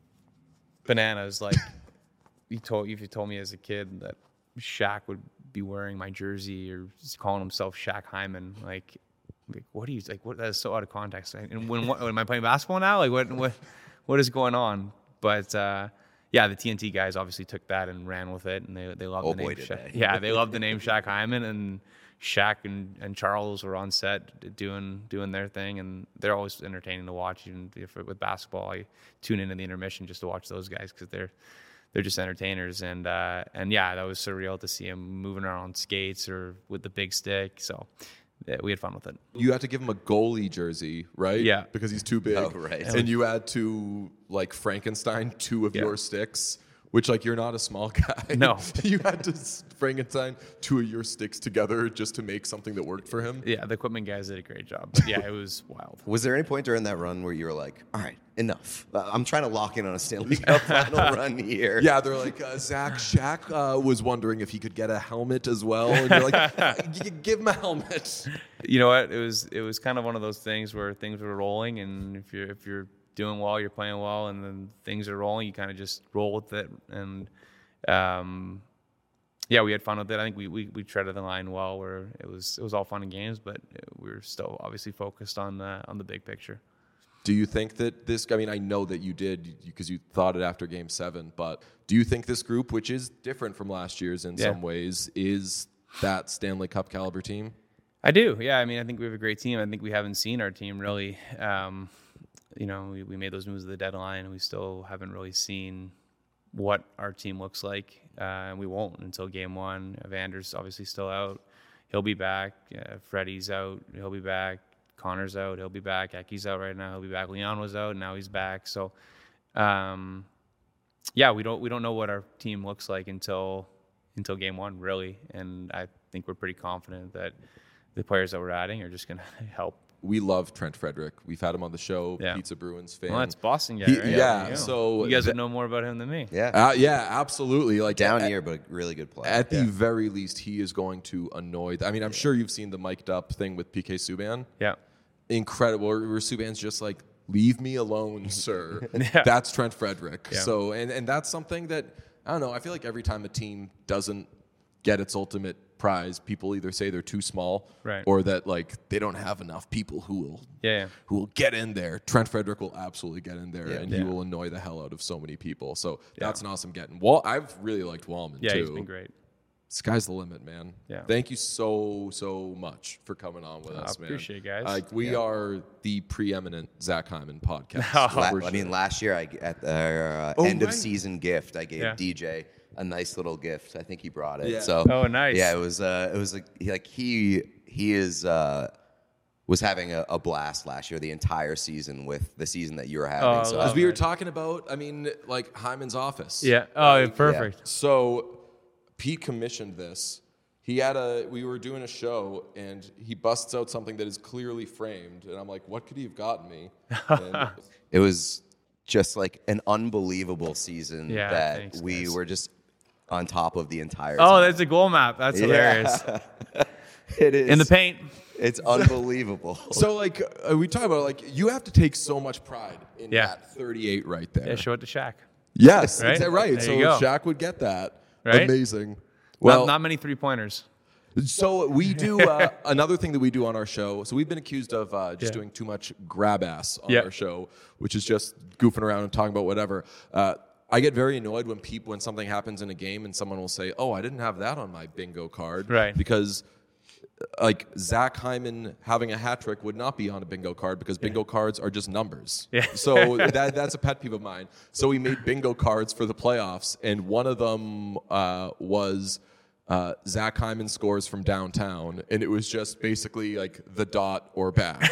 bananas. Like, you told if you told me as a kid that Shaq would be wearing my jersey or calling himself Shaq Hyman, like, like what do you like? What that is so out of context. And when what, am I playing basketball now? Like, what what what is going on? But uh, yeah, the T N T guys obviously took that and ran with it, and they they loved oh, the name boy, did Shaq. they. Yeah, they loved the name Shaq Hyman, and Shaq and, and Charles were on set doing doing their thing, and they're always entertaining to watch. Even if, with basketball, I tune into the intermission just to watch those guys because they're they're just entertainers. And uh, and yeah, that was surreal to see him moving around on skates or with the big stick. So yeah, we had fun with it. You had to give him a goalie jersey, right? Yeah. Because he's too big. Oh, right. And you had to, like, Frankenstein two of Yeah. your sticks, which, like, you're not a small guy. No. You had to Frankenstein two of your sticks together just to make something that worked for him. Yeah, the equipment guys did a great job. But yeah, it was wild. Was there any point during that run where you were like, all right, enough? Uh, I'm trying to lock in on a Stanley Cup final run here. Yeah, they're like, uh, Zach Shaq uh, was wondering if he could get a helmet as well. And you're like, "G- give him a helmet. You know what? It was it was kind of one of those things where things were rolling, and if you're if you're doing well, you're playing well, and then things are rolling, you kind of just roll with it. And um, yeah, we had fun with it. I think we, we we treaded the line well, where it was it was all fun and games, but we were still obviously focused on the on the big picture. Do you think that this, I mean, I know that you did because you thought it after game seven, but do you think this group, which is different from last year's in Yeah. some ways, is that Stanley Cup caliber team? I do. Yeah. I mean, I think we have a great team. I think we haven't seen our team really. Um, you know, we, we made those moves at the deadline, and we still haven't really seen what our team looks like. Uh, and we won't until game one. Evander's obviously still out. He'll be back. Uh, Freddie's out. He'll be back. Connor's out. He'll be back. Eki's out right now. He'll be back. Leon was out. Now he's back. So, um, yeah, we don't we don't know what our team looks like until until game one, really. And I think we're pretty confident that the players that we're adding are just going to help. We love Trent Frederick. We've had him on the show, Yeah. Pizza Bruins fan. Well, that's Boston guy, He- right? yeah, There you go. so you guys that- would know more about him than me. Yeah. Uh, yeah, absolutely. Like Down at, year, but a really good player. At the Yeah. very least, he is going to annoy. I mean, I'm sure you've seen the mic'd up thing with P K Subban. Yeah. Incredible. Where where Subban's just like, leave me alone, sir. Yeah. That's Trent Frederick. Yeah. So, and, and that's something that, I don't know, I feel like every time a team doesn't get its ultimate prize, people either say they're too small, Right. or that like they don't have enough people who will Yeah, yeah. who will get in there. Trent Frederick will absolutely get in there, Yeah. and Yeah. he will annoy the hell out of so many people. So that's an awesome getting. Well, I've really liked Wallman Yeah, too. he's been great. Sky's the limit, man. Yeah. Thank you so so much for coming on with I us, man. appreciate it, guys. Like we are the preeminent Zach Hyman podcast. La- for I mean, sure. last year I at the uh, Oh, end of right. season gift, I gave Yeah. D J a nice little gift. I think he brought it. Yeah. So Oh, nice. Yeah, it was. Uh, it was like, he- like he he is uh, was having a, a blast last year, the entire season with the season that you were having. Oh, so As love we were it. talking about, I mean, like Hyman's office. Yeah. Oh, perfect. So Pete commissioned this. He had a, we were doing a show and he busts out something that is clearly framed. And I'm like, what could he have gotten me? And it was just like an unbelievable season Yeah, that thanks, we guys. were just on top of the entire. Oh, time. that's a goal map. That's hilarious. It is In the paint. It's unbelievable. so like uh, we talk about like, you have to take so much pride in Yeah. that thirty-eight right there. Yeah, show it to Shaq. Yes, Right? right. right. There So you go. Shaq would get that. Right? Amazing. Well, Well, not, not many three pointers. so we do uh, another thing that we do on our show. So we've been accused of uh, just Yeah. doing too much grab ass on Yeah. our show, which is just goofing around and talking about whatever. Uh, I get very annoyed when people when something happens in a game and someone will say, "Oh, I didn't have that on my bingo card," Right. Because uh, like Zach Hyman having a hat trick would not be on a bingo card because bingo cards are just numbers. Yeah. So that that's a pet peeve of mine. So we made bingo cards for the playoffs, and one of them uh, was. Uh, Zach Hyman scores from downtown, and it was just basically like the dot or back.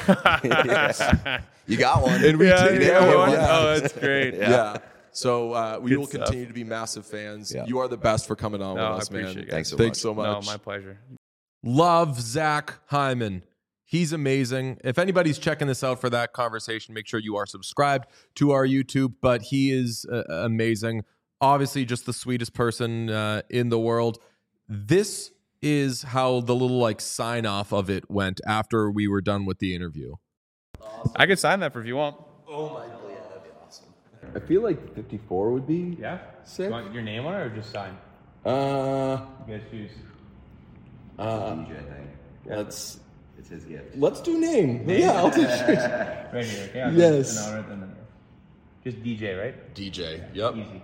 You got one. And we Yeah, did yeah, get yeah. one. Oh, that's great. Yeah. So uh, we Good will stuff. continue to be massive fans. Yeah. You are the best for coming on No, I with us, man. appreciate it, guys. Thanks so Thanks much. so much. No, my pleasure. Love Zach Hyman. He's amazing. If anybody's checking this out for that conversation, make sure you are subscribed to our YouTube. But he is uh, amazing. Obviously, just the sweetest person uh, in the world. This is how the little like sign off of it went after we were done with the interview. I could sign that for if you want. I feel like fifty-four would be. Yeah. Sick. You want your name on it or just sign? Uh, You guys choose. uh, D J thing. let's It's his gift. let's do name. Yeah, I'll take Right here. Okay. I'll Yes. Just, an honor, then- just D J, right? D J. Yep. Easy.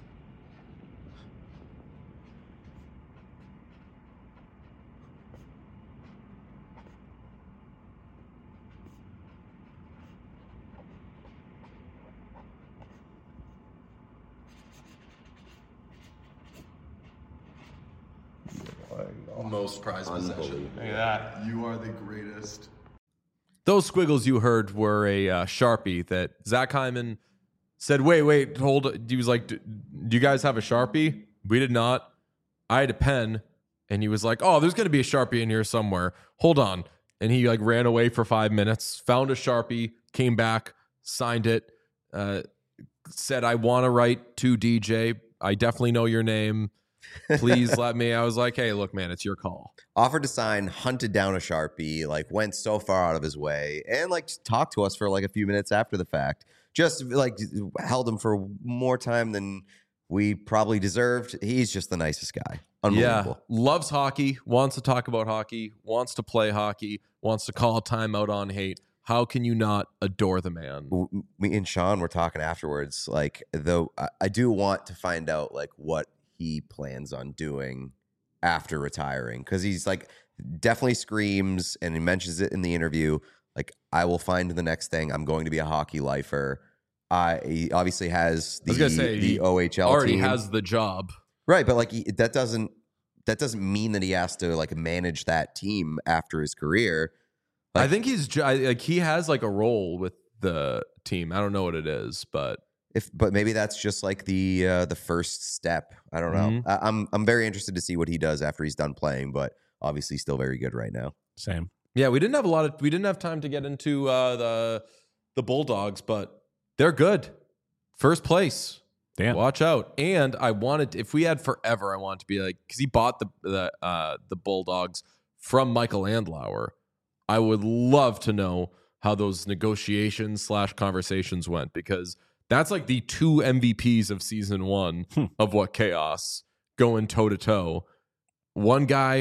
Most prized possession. Look at that. You are the greatest. Those squiggles you heard were a uh, Sharpie that Zach Hyman said, wait, wait, hold. He was like, do you guys have a Sharpie? We did not. I had a pen. And he was like, oh, there's going to be a Sharpie in here somewhere. Hold on. And he like ran away for five minutes, found a Sharpie, came back, signed it, uh, said, I want to write to D J. I definitely know your name. Please let me. I was like, hey, look, man, it's your call. Offered to sign, hunted down a Sharpie, like went so far out of his way, and like talked to us for like a few minutes after the fact. Just like held him for more time than we probably deserved. He's just the nicest guy. Unbelievable. Yeah, loves hockey, wants to talk about hockey, wants to play hockey, wants to call a timeout on hate. How can you not adore the man? W- Me and Sean were talking afterwards. Like, though, I, I do want to find out like what he plans on doing after retiring, because he's like definitely screams, and he mentions it in the interview. Like, I will find the next thing. I'm going to be a hockey lifer. I he obviously has the I was gonna say, the he O H L Already team. has the job. Right, but like he, that doesn't that doesn't mean that he has to like manage that team after his career. I Like- think he's ju- I- like he has like a role with the team. I don't know what it is, but If, but maybe that's just like the uh, the first step. I don't know. Mhm. I, I'm I'm very interested to see what he does after he's done playing, but obviously still very good right now. Same. yeah, we didn't have a lot of we didn't have time to get into uh, the the Bulldogs, but they're good. First place. Damn. Watch out. And I wanted, if we had forever, I wanted to be like, because he bought the the uh, the Bulldogs from Michael Andlauer. I would love to know how those negotiations slash conversations went, because that's like the two M V Ps of season one of What Chaos going toe to toe. One guy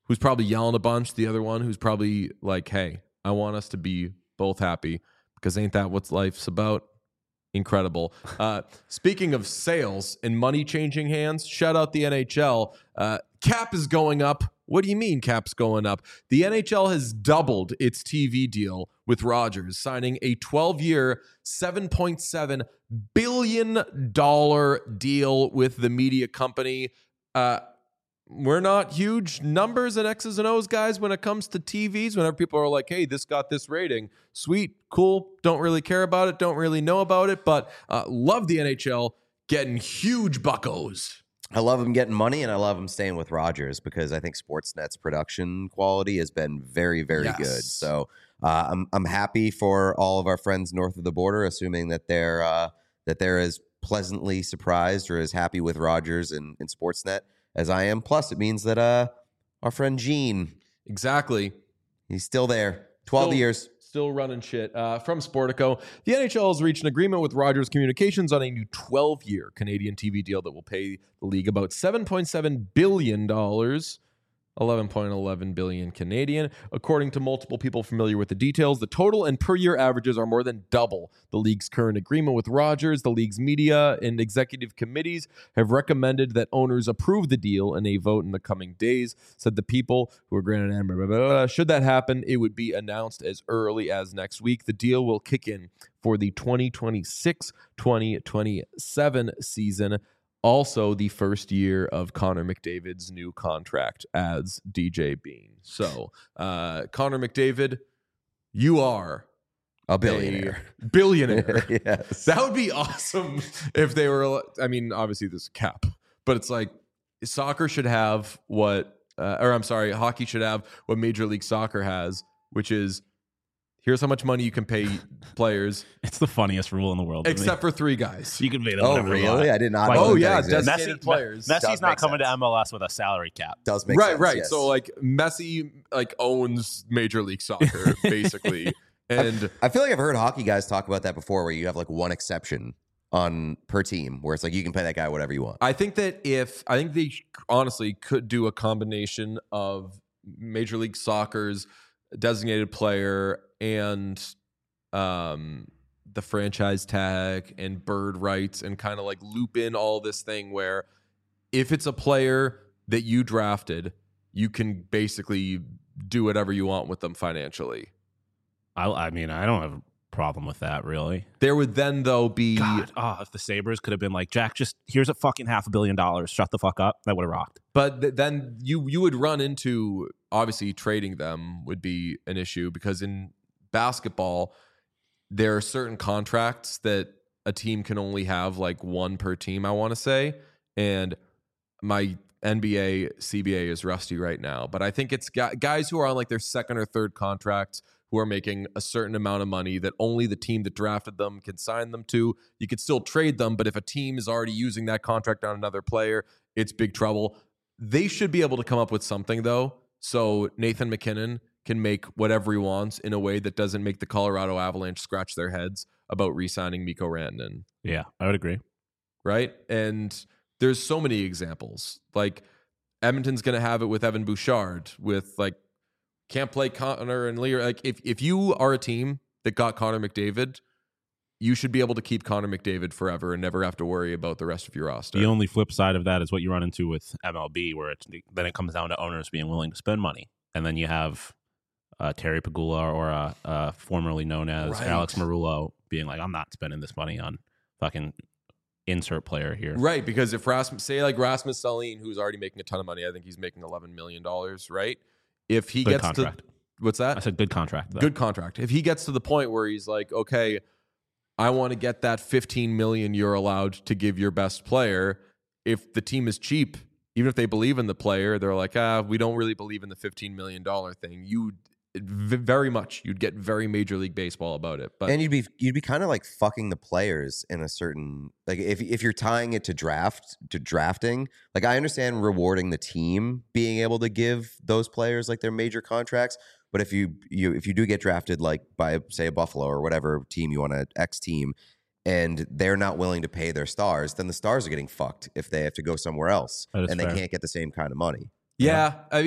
who's probably yelling a bunch. The other one who's probably like, hey, I want us to be both happy because ain't that what life's about? Incredible. Uh, speaking of sales and money changing hands, shout out the N H L. Uh, cap is going up. What do you mean cap's going up? The N H L has doubled its T V deal with Rogers, signing a twelve-year, seven point seven billion dollars deal with the media company. Uh, we're not huge numbers and X's and O's guys when it comes to T Vs. Whenever people are like, hey, this got this rating. Sweet, cool. Don't really care about it. Don't really know about it. But uh, love the N H L getting huge buckos. I love him getting money, and I love him staying with Rogers because I think Sportsnet's production quality has been very, very Yes. good. So uh, I'm I'm happy for all of our friends north of the border, assuming that they're uh, that they're as pleasantly surprised or as happy with Rogers and, and Sportsnet as I am. Plus, it means that uh, our friend Gene, Exactly. he's still there, twelve Still- years. Still running shit. Uh, from Sportico, the N H L has reached an agreement with Rogers Communications on a new twelve-year Canadian T V deal that will pay the league about seven point seven billion dollars, eleven point one one billion dollars Canadian. According to multiple people familiar with the details, the total and per-year averages are more than double the league's current agreement with Rogers. The league's media and executive committees have recommended that owners approve the deal in a vote in the coming days, said the people who are granted blah, blah, blah, blah. Should that happen, it would be announced as early as next week. The deal will kick in for the twenty twenty-six twenty twenty-seven season. Also, the first year of Connor McDavid's new contract as D J Bean. So, uh, Connor McDavid, you are A billionaire. a billionaire. Yes. That would be awesome if they were. I mean, obviously, there's a cap, but it's like soccer should have what, uh, or I'm sorry, hockey should have what Major League Soccer has, which is here's how much money you can pay players, It's the funniest rule in the world. to me. except for three guys. you can pay them Oh, whatever you really? want. I did not Like- know Oh, that yeah, exists. designated players. Messi's Does not make coming sense. to M L S with a salary cap. Does make right, sense. right. yes. So like Messi like owns Major League Soccer basically, and I feel like I've heard hockey guys talk about that before, where you have like one exception on per team, where it's like you can pay that guy whatever you want. I think that if I think they honestly could do a combination of Major League Soccer's designated player and um, the franchise tag and bird rights and kind of like loop in all this thing where if it's a player that you drafted, you can basically do whatever you want with them financially. I, I mean, I don't have a problem with that, really. There would then though be God, oh, if the Sabres could have been like, Jack, just here's a fucking half a billion dollars. Shut the fuck up. That would have rocked. But th- then you you would run into obviously trading them would be an issue because in basketball there are certain contracts that a team can only have like one per team, I want to say, and my N B A C B A is rusty right now, but I think it's gu- guys who are on like their second or third contracts who are making a certain amount of money that only the team that drafted them can sign them to. You could still trade them, but if a team is already using that contract on another player, it's big trouble. They should be able to come up with something, though, so Nathan McKinnon can make whatever he wants in a way that doesn't make the Colorado Avalanche scratch their heads about re-signing Mikko Rantanen, Yeah, I would agree. right? And there's so many examples. Like Edmonton's going to have it with Evan Bouchard, with like can't play Connor and Lear. Like if if you are a team that got Connor McDavid, you should be able to keep Connor McDavid forever and never have to worry about the rest of your roster. The only flip side of that is what you run into with M L B, where it's, then it comes down to owners being willing to spend money. And then you have uh, Terry Pagula or uh, uh, formerly known as Right. Alex Marullo being like, I'm not spending this money on fucking insert player here. Right, because if Rasmus, say like Rasmus Dahlin, who's already making a ton of money, I think he's making eleven million dollars, right? If he Good gets contract. to, what's that? I said good contract. Though. Good contract. If he gets to the point where he's like, okay, I want to get that fifteen million you're allowed to give your best player. If the team is cheap, even if they believe in the player, they're like, ah, we don't really believe in the fifteen million dollars thing. You v- very much, you'd get very Major League Baseball about it. But and you'd be you'd be kind of like fucking the players in a certain like if if you're tying it to draft to drafting. Like I understand rewarding the team being able to give those players like their major contracts, but if you you if you do get drafted like by say a Buffalo or whatever team you want to X team, and they're not willing to pay their stars, then the stars are getting fucked if they have to go somewhere else That is and fair. they can't get the same kind of money. yeah, I mean,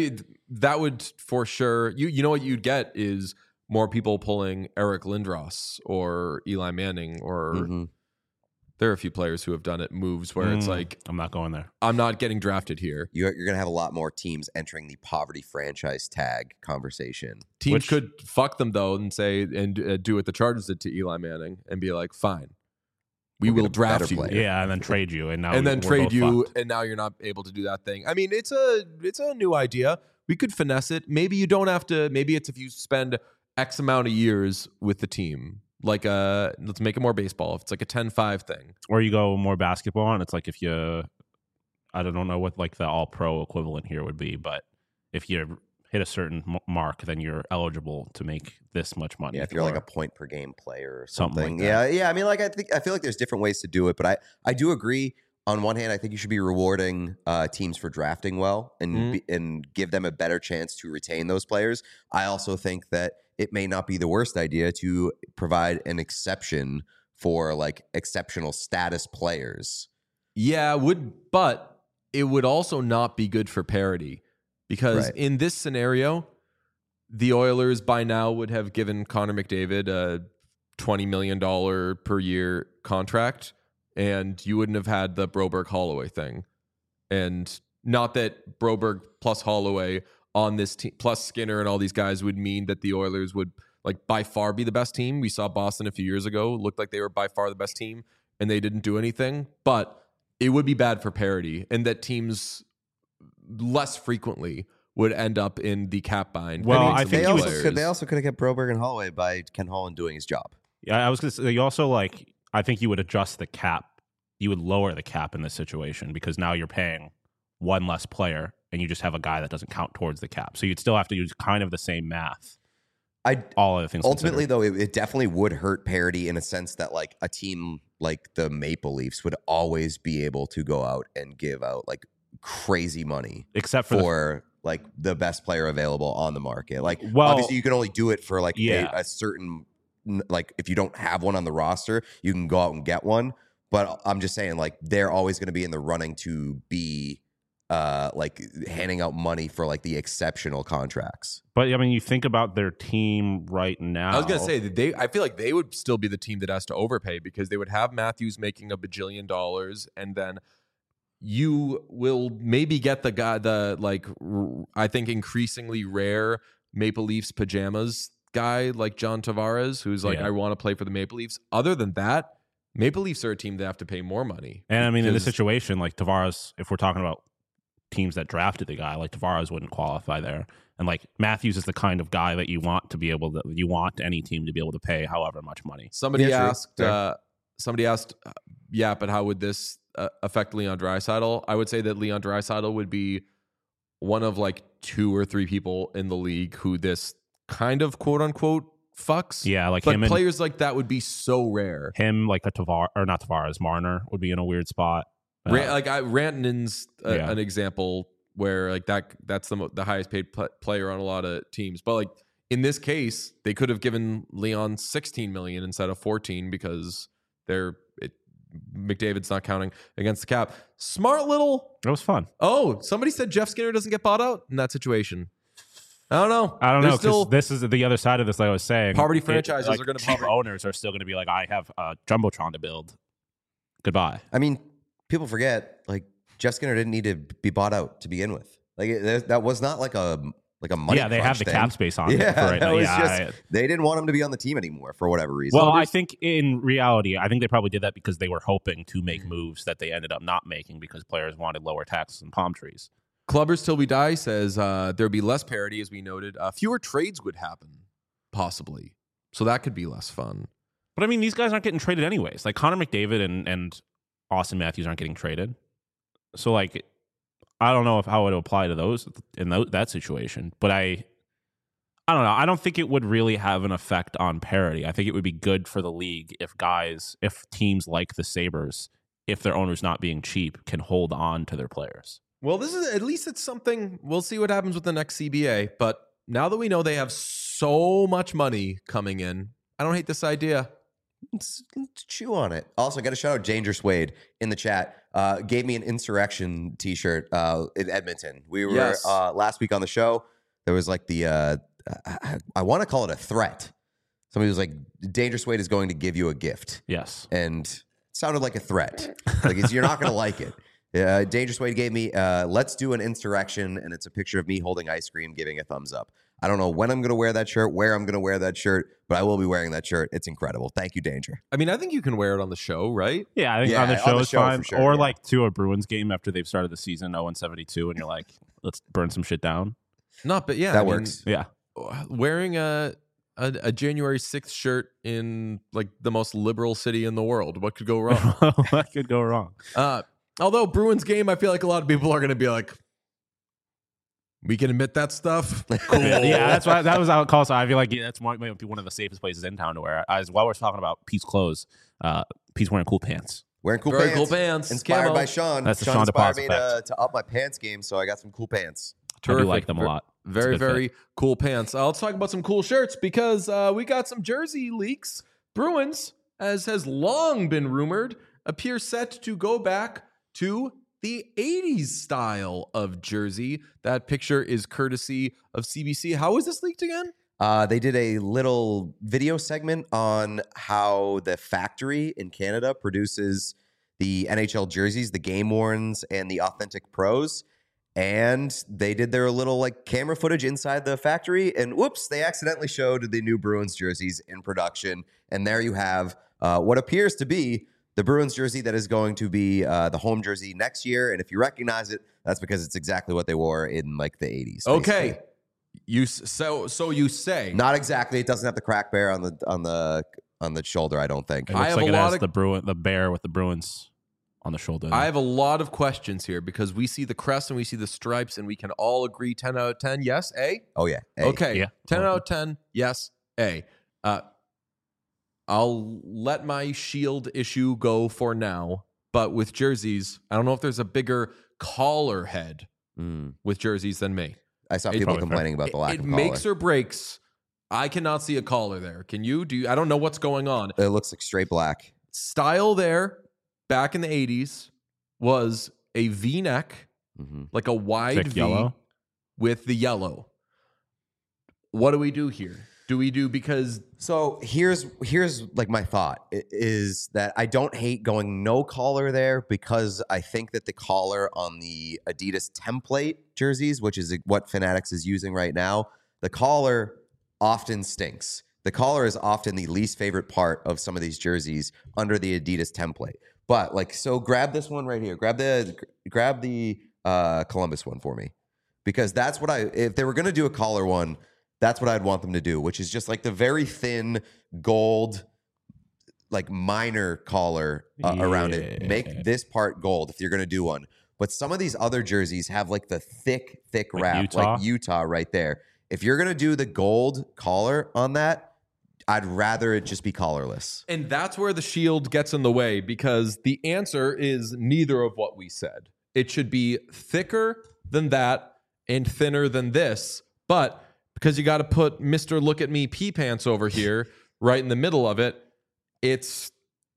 that would for sure. You you know what you'd get is more people pulling Eric Lindros or Eli Manning or Mm-hmm. there are a few players who have done it moves where it's Mm, like I'm not going there. I'm not getting drafted here. You're, you're going to have a lot more teams entering the poverty franchise tag conversation. Teams Which- could fuck them though and say and uh, do what the Chargers did to Eli Manning and be like, fine, we We'll will get a better draft you. player. Yeah, and then trade you, and now and then we're trade both you, fucked. and now you're not able to do that thing. I mean, it's a it's a new idea. We could finesse it. Maybe you don't have to. Maybe it's if you spend X amount of years with the team. Like a let's make it more baseball. If it's like a ten five thing. Or you go more basketball, and it's like if you, I don't know what like the all pro equivalent here would be, but if you hit a certain m- mark, then you're eligible to make this much money. Yeah, if you're like Or- a point per game player or Something something. like yeah, yeah. I mean, like I think I feel like there's different ways to do it, but I I do agree. On one hand, I think you should be rewarding uh, teams for drafting well and Mhm. be, and give them a better chance to retain those players. I also think that it may not be the worst idea to provide an exception for like exceptional status players. Yeah, it would but it would also not be good for parity because Right. in this scenario, the Oilers by now would have given Connor McDavid a twenty million dollars per year contract, and you wouldn't have had the Broberg Holloway thing. And not that Broberg plus Holloway on this team plus Skinner and all these guys would mean that the Oilers would like by far be the best team. We saw Boston a few years ago, looked like they were by far the best team and they didn't do anything, but it would be bad for parity and that teams less frequently would end up in the cap bind. Well, paying I some think they of you these would- also could they players. also could have kept Broberg and Holloway by Ken Holland doing his job. Yeah, I was going to say you also like. I think you would adjust the cap. You would lower the cap in this situation because now you're paying one less player, and you just have a guy that doesn't count towards the cap. So you'd still have to use kind of the same math. I All other things ultimately considered. though it, it definitely would hurt parity in a sense that like a team like the Maple Leafs would always be able to go out and give out like crazy money except for, for like the best player available on the market. Like Well- obviously you can only do it for like Yeah. a, a certain like if you don't have one on the roster, you can go out and get one. But I'm just saying like they're always going to be in the running to be uh like handing out money for like the exceptional contracts. the, but I mean, you think about their team right now. I was gonna say that they. I feel like they would still be the team that has to overpay because they would have Matthews making a bajillion dollars, and then you will maybe get the guy, the like r- I think increasingly rare Maple Leafs pajamas guy like John Tavares, who's like, Yeah. I want to play for the Maple Leafs. Other than that, Maple Leafs are a team that have to pay more money. And I mean, in this because- situation, like Tavares, if we're talking about teams that drafted the guy, like Tavares wouldn't qualify there. And like Matthews is the kind of guy that you want to be able to, you want any team to be able to pay however much money. Somebody Yeah, true. asked, Fair. uh, somebody asked, uh, yeah, but how would this uh, affect Leon Draisaitl? I would say that Leon Draisaitl would be one of like two or three people in the league who this kind of quote unquote fucks. Yeah, like but him and players like that would be so rare. him, like a Tavares, or not Tavares, Marner would be in a weird spot. Uh, Ran- like I, Rantanen's uh, Yeah. an example where like that that's the mo- the highest paid pl- player on a lot of teams. But like in this case, they could have given Leon sixteen million instead of fourteen because they're it, McDavid's not counting against the cap. Smart little. it was fun. Oh, somebody said Jeff Skinner doesn't get bought out in that situation. I don't know. I don't There's know Still, because this is the other side of this. Like I was saying, Poverty It- franchises like, are gonna cheap probably- owners are still going to be like, I have a jumbotron to build. Goodbye. I mean, people forget like Jeff Skinner didn't need to be bought out to begin with. Like it, that was not like a like a money. yeah, they have crunch the thing. cap space on it Yeah, for right that now. was Yeah, just- I- They didn't want him to be on the team anymore for whatever reason. well, I think in reality, I think they probably did that because they were hoping to make Mm. moves that they ended up not making because players wanted lower taxes and palm trees. Clubbers Till We Die says uh, there'd be less parity, as we noted. Uh, fewer trades would happen, possibly. So that could be less fun. But I mean, these guys aren't getting traded anyways. Like Connor McDavid and, and Austin Matthews aren't getting traded. So like, I don't know if how it would apply to those in tho- that situation. But I, I don't know. I don't think it would really have an effect on parity. I think it would be good for the league if guys, if teams like the Sabres, if their owners not being cheap, can hold on to their players. Well, this is at least it's something. We'll see what happens with the next C B A. But now that we know they have so much money coming in, I don't hate this idea. Let's, let's chew on it. Also, got to shout out Dangerous Wade in the chat. Uh, gave me an insurrection T-shirt uh, in Edmonton. We were Yes. uh, last week on the show. there was like the uh, I, I want to call it a threat. Somebody was like, Dangerous Wade is going to give you a gift. Yes. And it sounded like a threat. Like it's, you're not going to like it. Uh, Dangerous Wade gave me, uh, let's do an insurrection, and it's a picture of me holding ice cream, giving a thumbs up. I don't know when I'm going to wear that shirt, where I'm going to wear that shirt, but I will be wearing that shirt. It's incredible. Thank you, Danger. I mean, I think you can wear it on the show, right? Yeah, I think Yeah, on the on show the is show fine. for sure, or yeah. like to a Bruins game after they've started the season oh and seventy-two, and you're like, let's burn some shit down. Not, but yeah, That I mean, works. Yeah. wearing a, a a January sixth shirt in like the most liberal city in the world. What could go wrong? What could go wrong? uh, although Bruins game, I feel like a lot of people are going to be like, we can admit that stuff. Cool. Yeah, that's why that was how it calls. I feel like yeah, that's might might be one of the safest places in town to wear. As while we're talking about Pete's clothes, uh, Pete's wearing cool pants. Wearing cool Very pants. cool pants. Inspired Camo. by Sean. That's the Sean Sean inspired DePaz me to, effect. to up my pants game, so I got some cool pants. I do Terrific. like them a Ver- lot. It's a Very, good fit. very cool pants. Uh, let's talk about some cool shirts because uh, we got some jersey leaks. Bruins, as has long been rumored, appear set to go back to the eighties style of jersey. That picture is courtesy of C B C. How was this leaked again? Uh, they did a little video segment on how the factory in Canada produces the N H L jerseys, the game worns, and the authentic pros. And they did their little like camera footage inside the factory, and whoops, they accidentally showed the new Bruins jerseys in production. And there you have uh, what appears to be the Bruins jersey that is going to be uh, the home jersey next year. And if you recognize it, that's because it's exactly what they wore in like the eighties. Okay. basically. You s- so so you say. Not exactly. It doesn't have the crack bear on the on the on the shoulder, I don't think. It I looks have like a it lot has of- the Bruin, the bear with the Bruins on the shoulder. I have a lot of questions here because we see the crest and we see the stripes and we can all agree ten out of ten. Yes, A? Oh yeah. Hey. Okay. Yeah. ten out of ten. Yes, A. Uh, I'll let my shield issue go for now, but with jerseys, I don't know if there's a bigger collar head Mm. with jerseys than me. I saw It's people probably complaining about the lack it of makes collar. or breaks. I cannot see a collar there. Can you? Do you? I don't know what's going on. It looks like straight black. Style there back in the eighties was a V-neck, hmm like a wide Thick V yellow? with the yellow. What do we do here? Do we do because So here's here's like my thought i- is that I don't hate going no collar there because I think that the collar on the Adidas template jerseys, which is what Fanatics is using right now, the collar often stinks. The collar is often the least favorite part of some of these jerseys under the Adidas template. But like, so grab this one right here. Grab the grab the uh, Columbus one for me, because that's what I. If they were going to do a collar one, that's what I'd want them to do, which is just like the very thin gold, like minor collar uh, around it. Yeah. Make this part gold if you're going to do one. But some of these other jerseys have like the thick, thick Like wrap, Utah? like Utah right there. If you're going to do the gold collar on that, I'd rather it just be collarless. and that's where the shield gets in the way because the answer is neither of what we said. It should be thicker than that and thinner than this, but because you got to put Mister Look at Me pee pants over here right in the middle of it, it's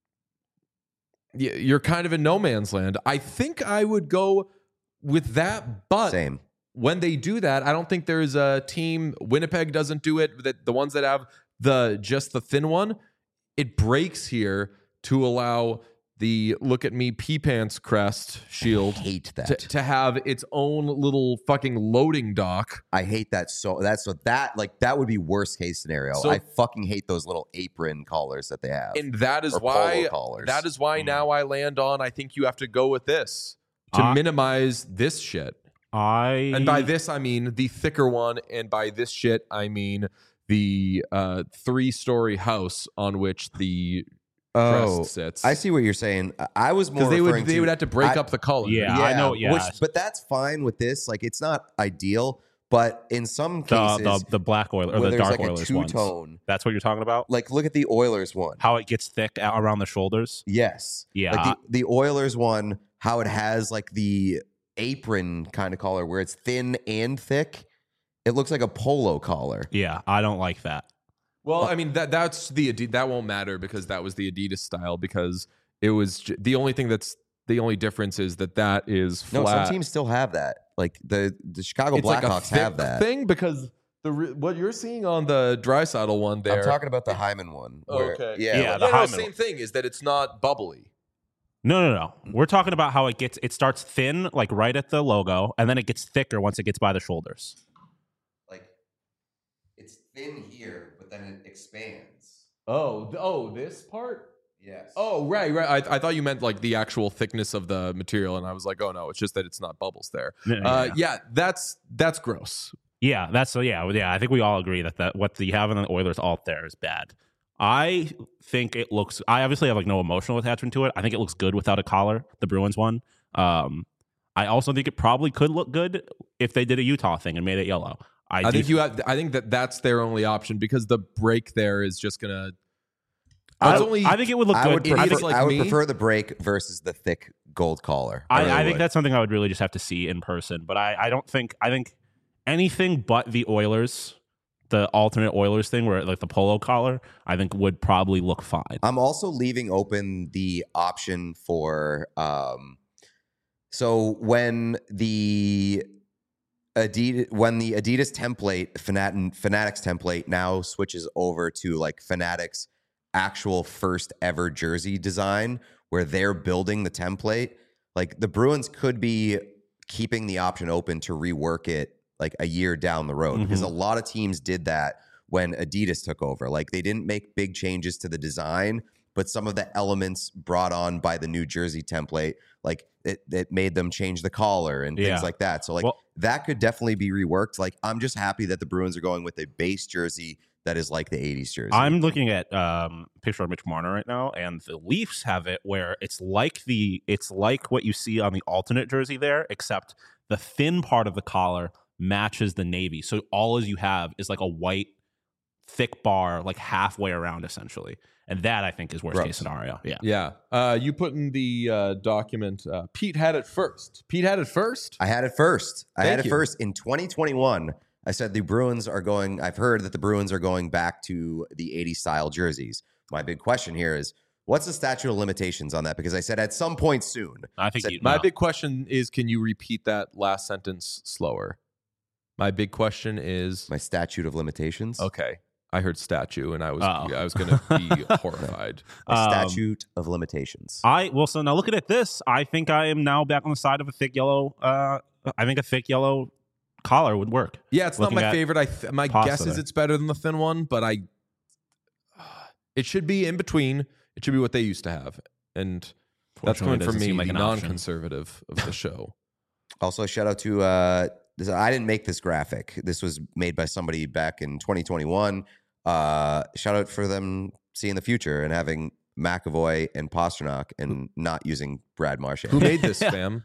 y- you're kind of in no man's land. I think I would go with that, but Same. when they do that, I don't think there's a team. Winnipeg doesn't do it. That the ones that have the just the thin one, it breaks here to allow the Look at Me pee pants crest shield Hate that. to, to have its own little fucking loading dock. I hate that so that's so that like that would be worst case scenario. So- I fucking hate those little apron collars that they have. And that is Or why polo collars. that is why now I land on I think you have to go with this to I- minimize this shit. I And by this I mean the thicker one, and by this shit I mean the uh, three-story house on which the oh, crest sits. I see what you're saying. I- I was more because they would referring they to, would have to break I- up the color. Yeah. I know, yeah. Which, but that's fine with this. Like, it's not ideal, but in some the, cases, the the black oil or where the there's dark like a Oilers two ones. tone, That's what you're talking about. like look at the Oilers one. How it gets thick out around the shoulders. Yes, Yeah. like the, the Oilers one, how it has like the apron kind of collar where it's thin and thick. It looks like a polo collar. Yeah, I don't like that. Well, I mean that that's the Adi- that won't matter because that was the Adidas style because it was j- the only thing that's the only difference is that that is No, flat. some teams still have that. Like the the Chicago It's like a Blackhawks thick have that. thing because the re- what you're seeing on the Draisaitl one there. I'm talking about the Hyman one. where- Okay. Yeah. Yeah, like- the yeah, no, Hyman same one. thing is that it's not bubbly. No, no, no. We're talking about how it gets. It starts thin, like right at the logo, and then it gets thicker once it gets by the shoulders. like it's thin here, but then it expands. Oh, th- oh, this part. Yes. Oh, right, right. I, I thought you meant like the actual thickness of the material, and I was like, oh no, it's just that it's not bubbles there. Yeah, Uh, yeah. yeah, that's that's gross. Yeah, that's so. Yeah, yeah. I think we all agree that that what you have in the Oilers alt there is bad. I think it looks. I obviously have like no emotional attachment to it. I think it looks good without a collar. The Bruins one. Um, I also think it probably could look good if they did a Utah thing and made it yellow. I, I, do- think you have. I think that that's their only option because the break there is just gonna. I, It's only. I think it would look I good. would It prefer, I is think, like I would me. prefer the break versus the thick gold collar. I, really I think would. that's something I would really just have to see in person. But I, I don't think. I think anything but the Oilers, the alternate Oilers thing, where like the polo collar, I think would probably look fine. I'm also leaving open the option for um so when the Adidas when the Adidas template Fanat- Fanatics template now switches over to like Fanatics actual first ever jersey design where they're building the template, like the Bruins could be keeping the option open to rework it like a year down the road, because a lot of teams did that when Adidas took over. Like they didn't make big changes to the design, but some of the elements brought on by the New Jersey template, like it, it made them change the collar and things Yeah. like that. So like Well- that could definitely be reworked. Like I'm just happy that the Bruins are going with a base jersey that is like the eighties jersey. I'm looking at um picture of Mitch Marner right now, and the Leafs have it where it's like the it's like what you see on the alternate jersey there, except the thin part of the collar matches the navy. So all as you have is like a white thick bar, like halfway around essentially. And that I think is worst Gross. case scenario. Yeah. Yeah. Uh, you put in the uh, document. Uh, Pete had it first. Pete had it first. I had it first. I Thank had it you. first in twenty twenty-one. I said the Bruins are going, I've heard that the Bruins are going back to the eighties style jerseys. My big question here is, what's the statute of limitations on that? Because I said at some point soon. I think Said- you, My no. big question is, can you repeat that last sentence slower? My big question is, My statute of limitations. okay, I heard statue, and I was Uh-oh. I was going to be horrified. My Um, statute of limitations. I well, so now looking at this, I think I am now back on the side of a thick yellow. Uh, I think a thick yellow collar would work. Yeah, it's not Looking my at favorite. I th- my pasta guess is there. it's better than the thin one, but I it should be in between. It should be what they used to have, and that's Fortunately, coming it from doesn't me, seem like the an option. non-conservative of the show. Also, shout out to, uh, this, I didn't make this graphic. This was made by somebody back in twenty twenty-one. Uh, shout out for them seeing the future and having McAvoy and Pasternak and not using Brad Marchand. Who made this, fam?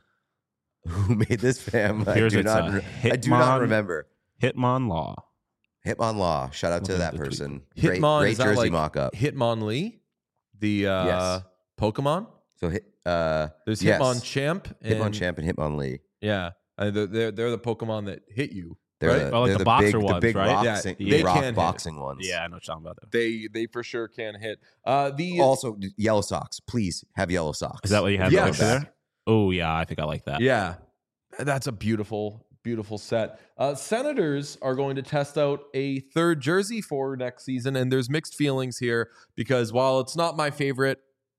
Who made this, fam? I Here's do its, not. uh, re- I do not Hitmon- remember. Hitmon Law. Hitmon Law. Shout out to Looking that at the tweet. person. Great, Hitmon great is that jersey like mock-up. Hitmonlee, the uh, Yes. Pokemon. So hit. Uh, There's yes. Hitmonchamp. And, Hitmon Champ and Hitmonlee. Yeah, uh, they're, they're they're the Pokemon that hit you. They're Right? the, Oh, like they're the the boxer big, the ones, big right? rock, Yeah, sing- they rock can hit. boxing ones. Yeah, I know what you're talking about. That. They they for sure can hit. Uh, the Also, yellow socks. Please have yellow socks. Is that what you have Yes. right there? Oh yeah, I think I like that. yeah, that's a beautiful beautiful set. Uh, Senators are going to test out a third jersey for next season, and there's mixed feelings here because while it's not my favorite,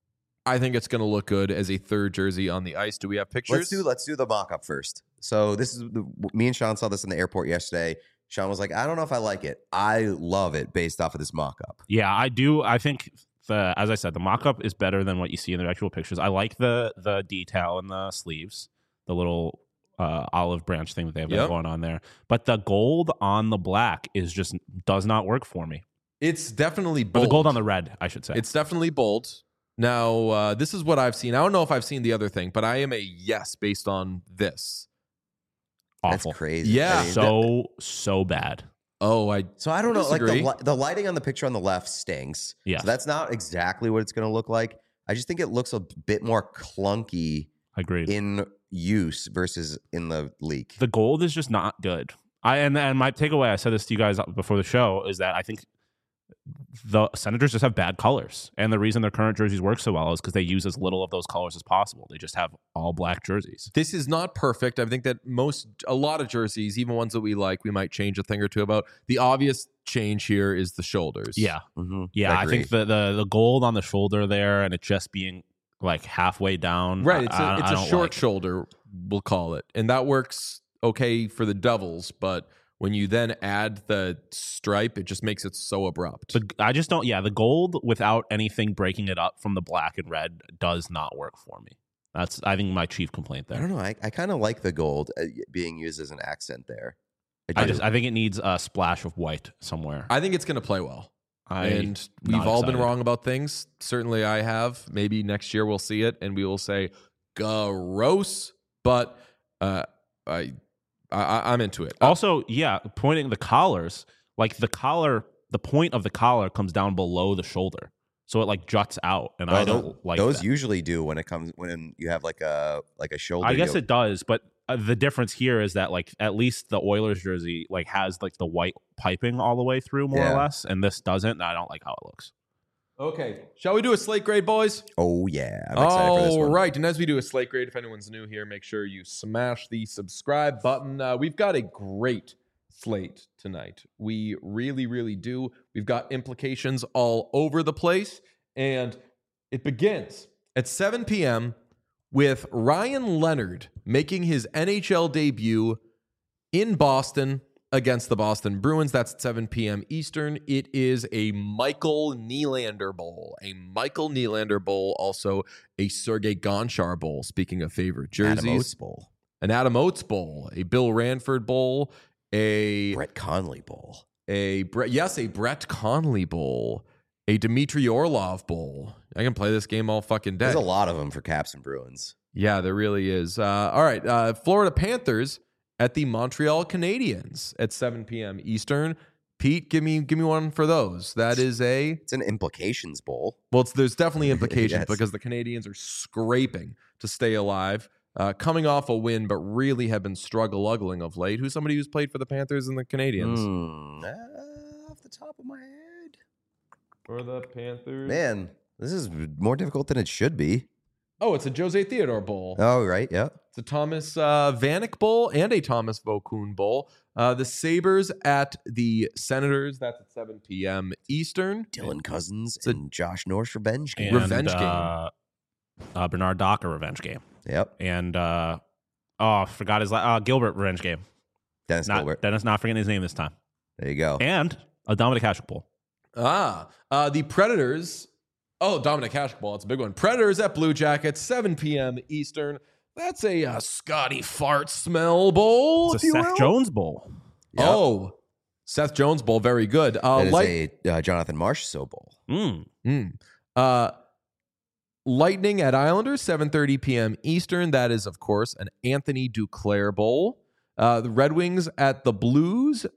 I think it's going to look good as a third jersey on the ice. Do we have pictures? Let's do let's do the mock up first. So this is the, me and Sean saw this in the airport yesterday. Sean was like, I don't know if I like it. I love it based off of this mock up. Yeah, I do. I think the as I said, the mock-up is better than what you see in the actual pictures. I like the the detail in the sleeves, the little uh, olive branch thing that they have Yep. going on there. But the gold on the black is just does not work for me. It's definitely Or bold. the gold on the red, I should say. It's definitely bold. Now, uh, this is what I've seen. I don't know if I've seen the other thing, but I am a yes based on this. awful. That's crazy. Yeah. I mean, So so bad. Oh, I So I don't know, like the, Disagree. li- the lighting on the picture on the left stinks. Yeah. So that's not exactly what it's going to look like. I just think it looks a bit more clunky Agreed. in use versus in the leak. The gold is just not good. I and and my takeaway, I said this to you guys before the show, is that I think the Senators just have bad colors. And the reason their current jerseys work so well is because they use as little of those colors as possible. They just have all black jerseys. This is not perfect. I think that most, a lot of jerseys, even ones that we like, we might change a thing or two about. The obvious change here is the shoulders. Yeah. Mm-hmm. Yeah, I think the, the the gold on the shoulder there and it just being like halfway down. Right. It's a, I, it's I a don't short like it. shoulder, we'll call it. And that works okay for the Devils, but when you then add the stripe, it just makes it so abrupt. The, I just don't, yeah, the gold without anything breaking it up from the black and red does not work for me. That's, I think, my chief complaint I there. don't know. I, I kind of like the gold uh, being used as an accent there. I do. just, I think it needs a splash of white somewhere. I think it's going to play well. I, and we've not all been excited. wrong about things. Certainly I have. Maybe next year we'll see it and we will say, gross. But uh, I, I, I'm into it. Also, yeah, pointing the collars, like the collar, the point of the collar comes down below the shoulder. So it like juts out. And Well, I don't tho- like those that. usually do when it comes when you have like a like a shoulder. I guess yoke. it does, but uh, the difference here is that like at least the Oilers jersey like has like the white piping all the way through more Yeah. or less, and this doesn't. And I don't like how it looks. Okay. Shall we do a slate grade, boys? Oh yeah, I'm excited for this All one. right. And as we do a slate grade, if anyone's new here, make sure you smash the subscribe button. Uh, we've got a great slate tonight. We really, really do. We've got implications all over the place. And it begins at seven p.m. with Ryan Leonard making his N H L debut in Boston against the Boston Bruins. That's at seven p.m. Eastern. It is a Michael Nylander Bowl. A Michael Nylander Bowl, also a Sergei Gonchar Bowl, speaking of favorite jerseys. Adam Oates Bowl, An Adam Oates Bowl, a Bill Ranford Bowl, a Brett Conley Bowl. a Brett, yes, a Brett Conley Bowl, a Dmitry Orlov Bowl. I can play this game all fucking day. There's a lot of them for Caps and Bruins. Yeah, there really is. Uh, all right, uh, Florida Panthers at the Montreal Canadiens at seven p.m. Eastern. Pete, give me give me one for those. That is a It's an implications bowl. well. It's, there's definitely implications Yes. because the Canadians are scraping to stay alive, uh, coming off a win, but really have been struggle-uggling of late. Who's somebody who's played for the Panthers and the Canadians? Hmm, uh, off the top of my head, For the Panthers, man, this is more difficult than it should be. Oh, it's a Jose Theodore Bowl. Oh right, yeah. It's a Thomas uh, Vanek Bowl and a Thomas Vokoun Bowl. Uh, the Sabres at the Senators. That's at seven p.m. Eastern. Dylan Cousins a- and Josh Norris revenge game. And, Revenge game. uh, Uh, Bernard Docker revenge game, Yep, and uh, oh, I forgot his la- uh, Gilbert revenge game. Dennis Not Gilbert. Dennis, not forgetting his name this time, There you go. and a Dominic Hasek Bowl. Ah, uh, the Predators. Oh, Dominic Hasek Bowl. It's a big one. Predators at Blue Jackets, seven p.m. Eastern. That's a uh, Scotty Fart Smell Bowl, It's if a you Seth will. Jones Bowl. Yep. Oh, Seth Jones Bowl. Very good. Uh, That is light- a uh, Jonathan Marchessault bowl. Mm. Mm. Uh, Lightning at Islanders, seven thirty p.m. Eastern. That is, of course, an Anthony Duclair Bowl. Uh, the Red Wings at the Blues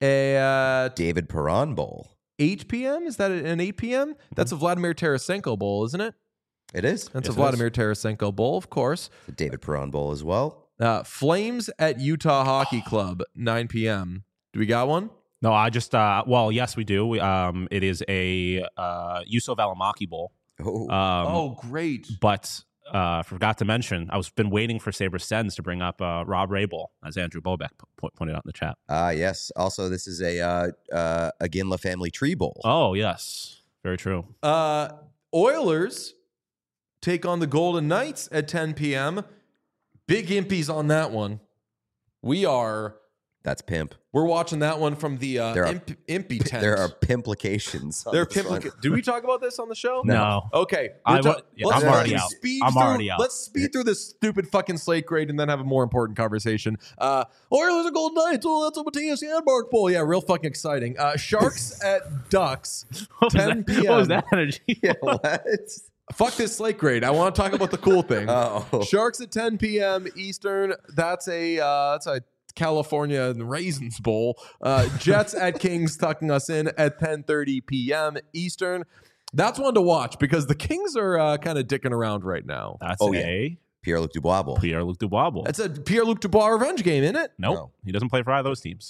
at David Perron bowl. eight p.m. Is that an eight p.m.? That's a Vladimir Tarasenko Bowl, isn't it? It is. That's Yes, a it Vladimir Tarasenko Bowl, of course. It's a David Perron bowl as well. Uh, Flames at Utah Hockey Club, nine p.m. Do we got one? No, I just uh, well, yes, we do. We, um, it is a uh, Yusuf Alamaki Bowl. Oh, Um, oh, great. But uh, forgot to mention, I was been waiting for Sabre Sens to bring up uh, Rob Rabel, as Andrew Bobek po- pointed out in the chat. ah, yes. Also, this is a uh, uh, a Ginla family tree bowl. Oh, yes. Very true. Uh, Oilers take on the Golden Knights at ten p.m. Big impies on that one. We are That's pimp. we're watching that one from the uh, There are- imp, impy tent. There are pimplications. on there are this one. pimplica- Did we talk about this on the show? No. Okay, I we're ta- wa- yeah, let's I'm fucking already out. Speed I'm through, already out. Let's speed through this stupid fucking slate grade and then have a more important conversation. Uh, Oilers and Golden Knights. Oh, that's a Matthias Janmark Bowl. Yeah, real fucking exciting. Uh, Sharks at Ducks. What was, ten that, what was p m. that energy? Yeah, what? Fuck this slate grade. I want to talk about the cool thing. Oh. Sharks at ten p.m. Eastern. That's a uh, that's a California and Raisins Bowl. Uh, Jets at Kings tucking us in at ten thirty p.m. Eastern. That's one to watch because the Kings are uh, kind of dicking around right now. That's Oh, yeah. a Pierre-Luc Dubois bowl. Pierre-Luc Dubois Bowl. It's a Pierre-Luc Dubois revenge game, isn't it? Nope. No. He doesn't play for either of those teams.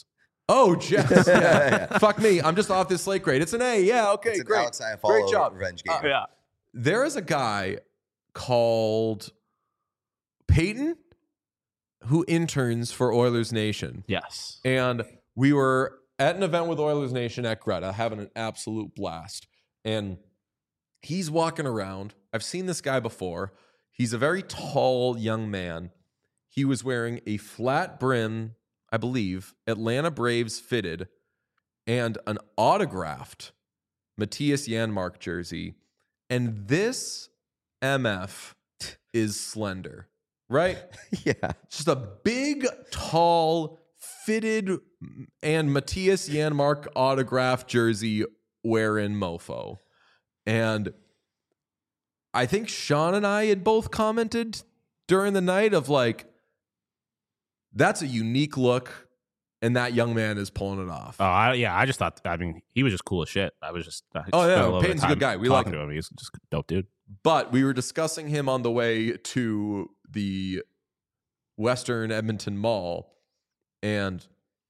Oh, Jess. Yeah. Fuck me. I'm just off this slate grade. It's an A. Yeah. Okay. It's an great. Alex Iafallo Great job. revenge game. Uh, Yeah. There is a guy called Peyton who interns for Oilers Nation. Yes. And we were at an event with Oilers Nation at Greta, having an absolute blast. And he's walking around. I've seen this guy before. He's a very tall young man. He was wearing a flat brim, I believe, Atlanta Braves fitted, and an autographed Matthias Janmark jersey. And this M F is slender, right? Yeah. Just a big, tall, fitted, and Matthias Janmark autographed jersey wearing mofo. And I think Sean and I had both commented during the night of like, that's a unique look, and that young man is pulling it off. Oh, I, yeah. I just thought. I mean, he was just cool as shit. I was just. I Oh, spent yeah, a little bit of Peyton's a good time guy. We like talking to him. He's just a dope dude. But we were discussing him on the way to the Western Edmonton Mall, and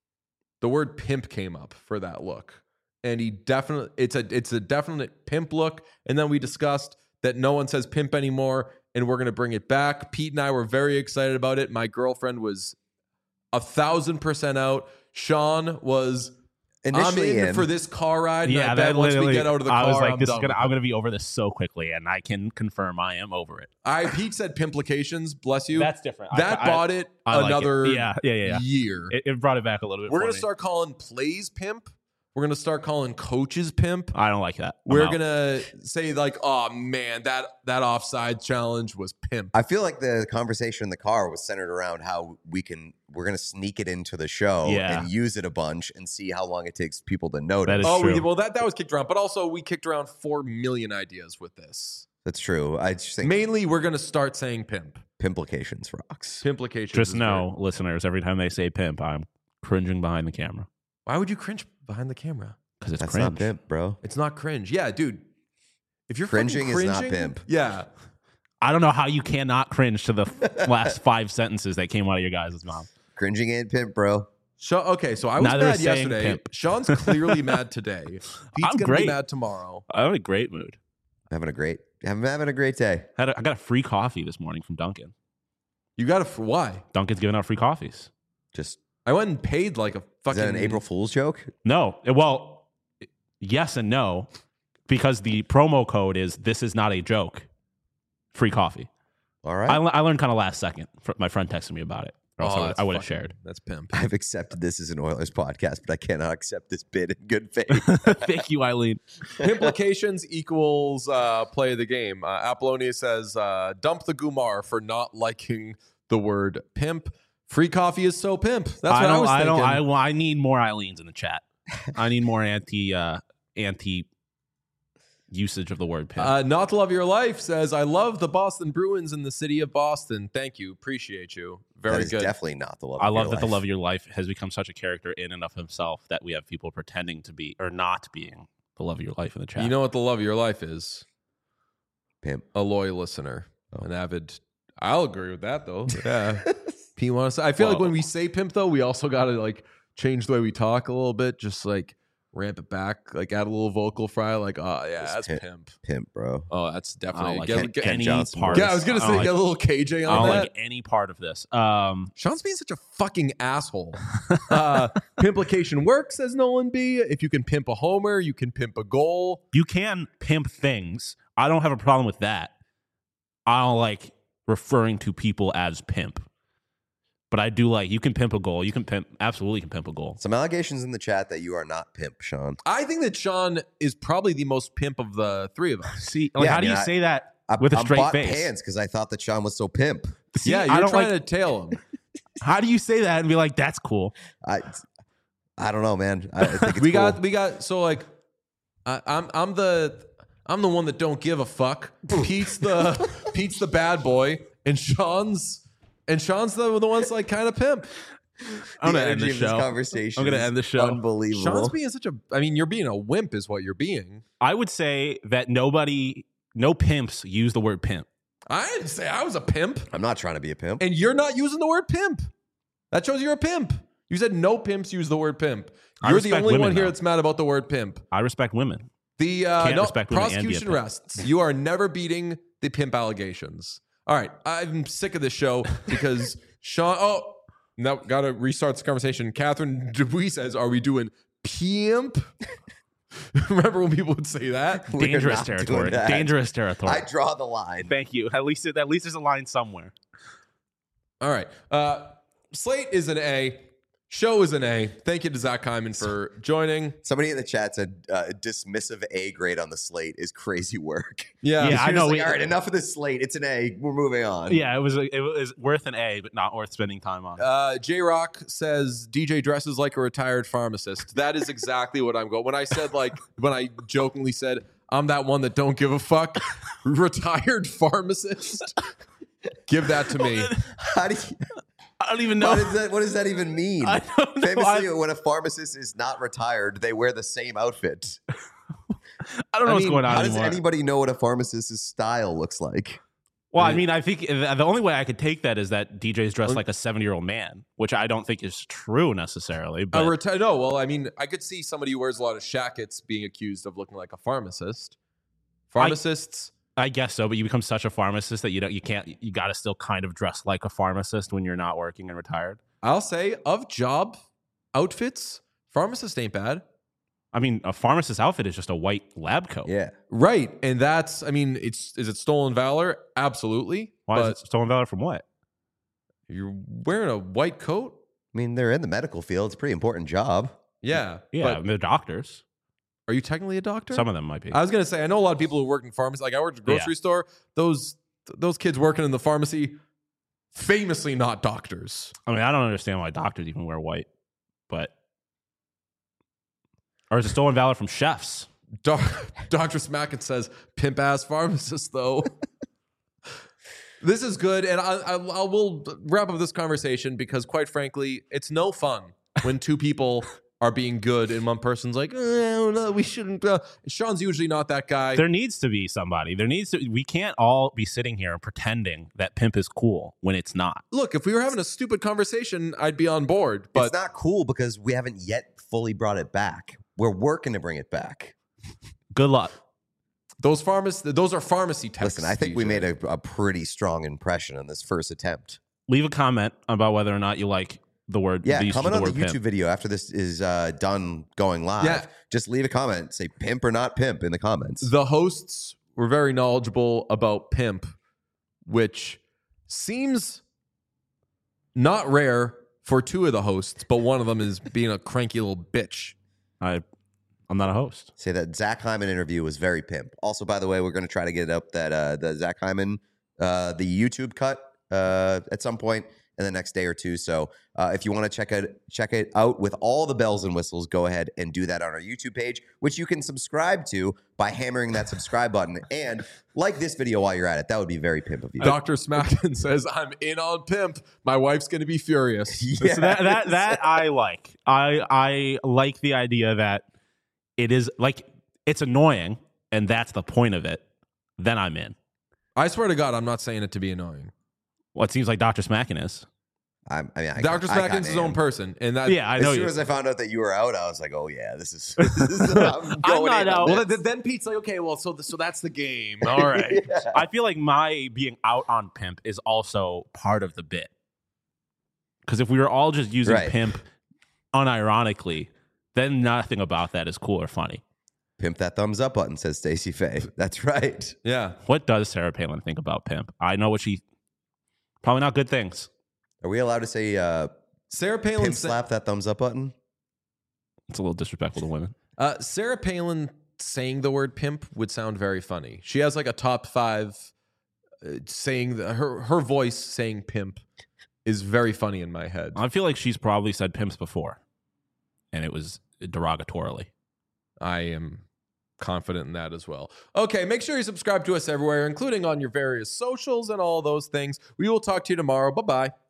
the word pimp came up for that look. And he definitely, it's a, it's a definite pimp look. And then we discussed that no one says pimp anymore, and we're going to bring it back. Pete and I were very excited about it. My girlfriend was a thousand percent out. Sean was, Initially I'm in, in. for this car ride. Yeah, and I bet that once we literally. get out of the I car, was like, I'm "This is done gonna. with I'm it. gonna be over this so quickly," and I can confirm I am over it. I Pete said pimplications. Bless you. That's different. That I, bought it I like it. another Yeah, yeah, yeah, yeah. year. It, it brought it back a little bit. We're for gonna me. start calling plays pimp. We're gonna start calling coaches pimp. I don't like that. I'm We're out. gonna say like, oh man, that that offside challenge was pimp. I feel like the conversation in the car was centered around how we can we're gonna sneak it into the show Yeah. and use it a bunch and see how long it takes people to notice. That is oh, we, true. well that that was kicked around, but also we kicked around four million ideas with this. That's true. I just think Mainly, we're gonna start saying pimp. Pimplications rocks. Pimplications. Just is know, very- listeners, every time they say pimp, I'm cringing behind the camera Why would you cringe behind the camera? because it's That's cringe. not pimp, bro. It's not cringe. Yeah, dude. If you're Cringing fucking is not cringing, pimp. Yeah. I don't know how you cannot cringe to the f- last five sentences that came out of your guys' mouth. Cringing ain't pimp, bro. So, okay, so I was Neither mad is saying yesterday. pimp. Sean's clearly mad today. Pete's I'm gonna great. be mad tomorrow. I'm in a great mood. Having a great I'm having a great day. Had a, I got a free coffee this morning from Dunkin'. You got to why? Dunkin's giving out free coffees. Just I went and paid like a is fucking that an April Fool's joke? No, well, yes and no, because the promo code is "This is not a joke." Free coffee. All right. I, le- I learned kind of last second. Fr- My friend texted me about it, or else Oh, I would- that's I would have fucking- shared. That's pimp. I've accepted this as an Oilers podcast, but I cannot accept this bid in good faith. Thank you, Eileen. Implications equals uh, play of the game. Uh, Apollonia says, uh, dump the Gumar for not liking the word pimp. Free coffee is so pimp. That's what I, don't. was I thinking. don't. I, well, I need more Eileens in the chat. I need more anti uh, anti usage of the word pimp. Uh, Not to Love Your Life says, I love the Boston Bruins in the city of Boston. Thank you. Appreciate you. Very that is good. definitely not the love. I of love your that the life. love of your life has become such a character in and of himself that we have people pretending to be or not being the love of your life in the chat. You know what the love of your life is? Pimp. A loyal listener, Oh. an avid. I'll agree with that though. Yeah. P wants. I feel like Whoa. when we say pimp though, we also got to like change the way we talk a little bit. Just like ramp it back, like add a little vocal fry. Like, oh yeah, Just that's pimp. pimp. Pimp, bro. Oh, that's I don't definitely. like get, Ken, get- any Johnson part. voice. yeah, I was gonna I say don't get a like, little K J I on don't that. like any part of this. Um, Sean's being such a fucking asshole. Uh, Pimplication works, says Nolan B. If you can pimp a homer, you can pimp a goal. you can pimp things. I don't have a problem with that. I don't like referring to people as pimp. But I do like, you can pimp a goal. You can pimp, absolutely can pimp a goal. Some allegations in the chat that you are not pimp, Sean. I think that Sean is probably the most pimp of the three of us. See, like, Yeah, how I do mean, you I- say that I, with a I'm straight bought face? pants because I thought that Sean was so pimp. See, yeah, I you're don't trying like, to tail him. how do you say that and be like, that's cool? I, I don't know, man. I, I think it's we cool. got we got so like I, I'm I'm the I'm the one that don't give a fuck. Pete's the Pete's the bad boy, and Sean's and Sean's the the one's like kind of pimp. I'm the gonna end energy the of this show. conversation. I'm gonna is end the show. Unbelievable. Sean's being such a. I mean, you're being a wimp, is what you're being. I would say that nobody, no pimps use the word pimp. I didn't say I was a pimp, I'm not trying to be a pimp. and you're not using the word pimp. That shows you're a pimp. You said no pimps use the word pimp. I You're the respect only women, one here though. that's mad about the word pimp. I respect women. The uh, Can't no, respect women and be a prosecution pimp. rests. You are never beating the pimp allegations. All right, I'm sick of this show because Sean. Oh, no, got to restart this conversation. Catherine Dubuis says, "Are we doing pimp?" Remember when people would say that? We're Dangerous not doing territory. that. Dangerous territory. I draw the line. Thank you. At least, at least there's a line somewhere. All right. Uh, Slate is an A. Show is an A. Thank you to Zach Hyman for joining. Somebody in the chat said uh, dismissive A grade on the slate is crazy work. Yeah. Yeah, I You're know. just We, like, all right, enough of this slate. It's an A. We're moving on. yeah, it was a, it was worth an A, but not worth spending time on. Uh, J Rock says D J dresses like a retired pharmacist. That is exactly what I'm going. When I said like when I jokingly said I'm that one that don't give a fuck, retired pharmacist. Give that to me. How do you, I don't even know. what, does that, what does that even mean? I don't know. Famously, I- when a pharmacist is not retired, they wear the same outfit. I don't know I what's mean, going on How anymore. does anybody know what a pharmacist's style looks like? Well, I mean, I think the only way I could take that is that D J's dressed like a seventy-year-old man, which I don't think is true necessarily. But A reti- no, well, I mean, I could see somebody who wears a lot of shackets being accused of looking like a pharmacist. Pharmacists. I guess so. But you become such a pharmacist that you don't, you can't, you got to still kind of dress like a pharmacist when you're not working and retired. I'll say of job outfits, pharmacist ain't bad. I mean, a pharmacist outfit is just a white lab coat. Yeah. Right. And that's, I mean, it's, is it stolen valor? Absolutely. Why but is it stolen valor from what? you're wearing a white coat? I mean, they're in the medical field. It's a pretty important job. Yeah. Yeah, But I mean, they're doctors. are you technically a doctor? Some of them might be. I was gonna say I know a lot of people who work in pharmacy. Like I worked at a grocery store. Those those kids working in the pharmacy, famously not doctors. I mean, I don't understand why doctors even wear white, but or is it stolen valor from chefs? Doc, Doctor Smackett says pimp ass pharmacist though. This is good, and I, I, I will wrap up this conversation because, quite frankly, it's no fun when two people are being good and one person's like, oh, no, we shouldn't. Uh. Sean's usually not that guy. There needs to be somebody. There needs to. We can't all be sitting here and pretending that pimp is cool when it's not. Look, if we were having a stupid conversation, I'd be on board. But it's not cool because we haven't yet fully brought it back. We're working to bring it back. Good luck. those pharmac- those are pharmacy texts. Listen, I think we D J. made a, a pretty strong impression on this first attempt. Leave a comment about whether or not you like the word. Yeah, the use of comment on the word YouTube pimp. video after this is uh, done going live. Yeah. Just leave a comment. Say pimp or not pimp in the comments. The hosts were very knowledgeable about pimp, which seems not rare for two of the hosts, but one of them is being a cranky little bitch. I, I'm not a host. Say that Zach Hyman interview was very pimp. Also, by the way, we're going to try to get up that uh, the Zach Hyman, uh, the YouTube cut uh, at some point in the next day or two. So uh, if you want to check it check it out with all the bells and whistles, go ahead and do that on our YouTube page, which you can subscribe to by hammering that subscribe button. And like this video while you're at it. That would be very pimp of you. Doctor Smackin says, I'm in on pimp. My wife's going to be furious. Yes. So that that that I like. I I like the idea that it is like it's annoying, and that's the point of it. Then I'm in. I swear to God, I'm not saying it to be annoying. Well, it seems like Doctor Smackin is. I'm, I mean, I, Doctor I Smackin's kinda his own am. person. And that, Yeah, I As know soon you. as I found out that you were out, I was like, "Oh yeah, this is." This is I'm, going not in on out. Well, this. then, then Pete's like, okay, well, so so that's the game. All right. I feel like my being out on pimp is also part of the bit. Because if we were all just using Right. pimp unironically, then nothing about that is cool or funny. Pimp that thumbs up button, says Stacey Faye. That's right. Yeah. What does Sarah Palin think about pimp? I know what she probably not good things. Are we allowed to say uh, Sarah Palin pimp sa- slap that thumbs up button? It's a little disrespectful to women. Uh, Sarah Palin saying the word pimp would sound very funny. She has like a top five uh, saying the, her her voice saying pimp is very funny in my head. I feel like she's probably said pimps before, and it was derogatorily. I am confident in that as well. Okay, make sure you subscribe to us everywhere, including on your various socials and all those things. We will talk to you tomorrow. Bye bye.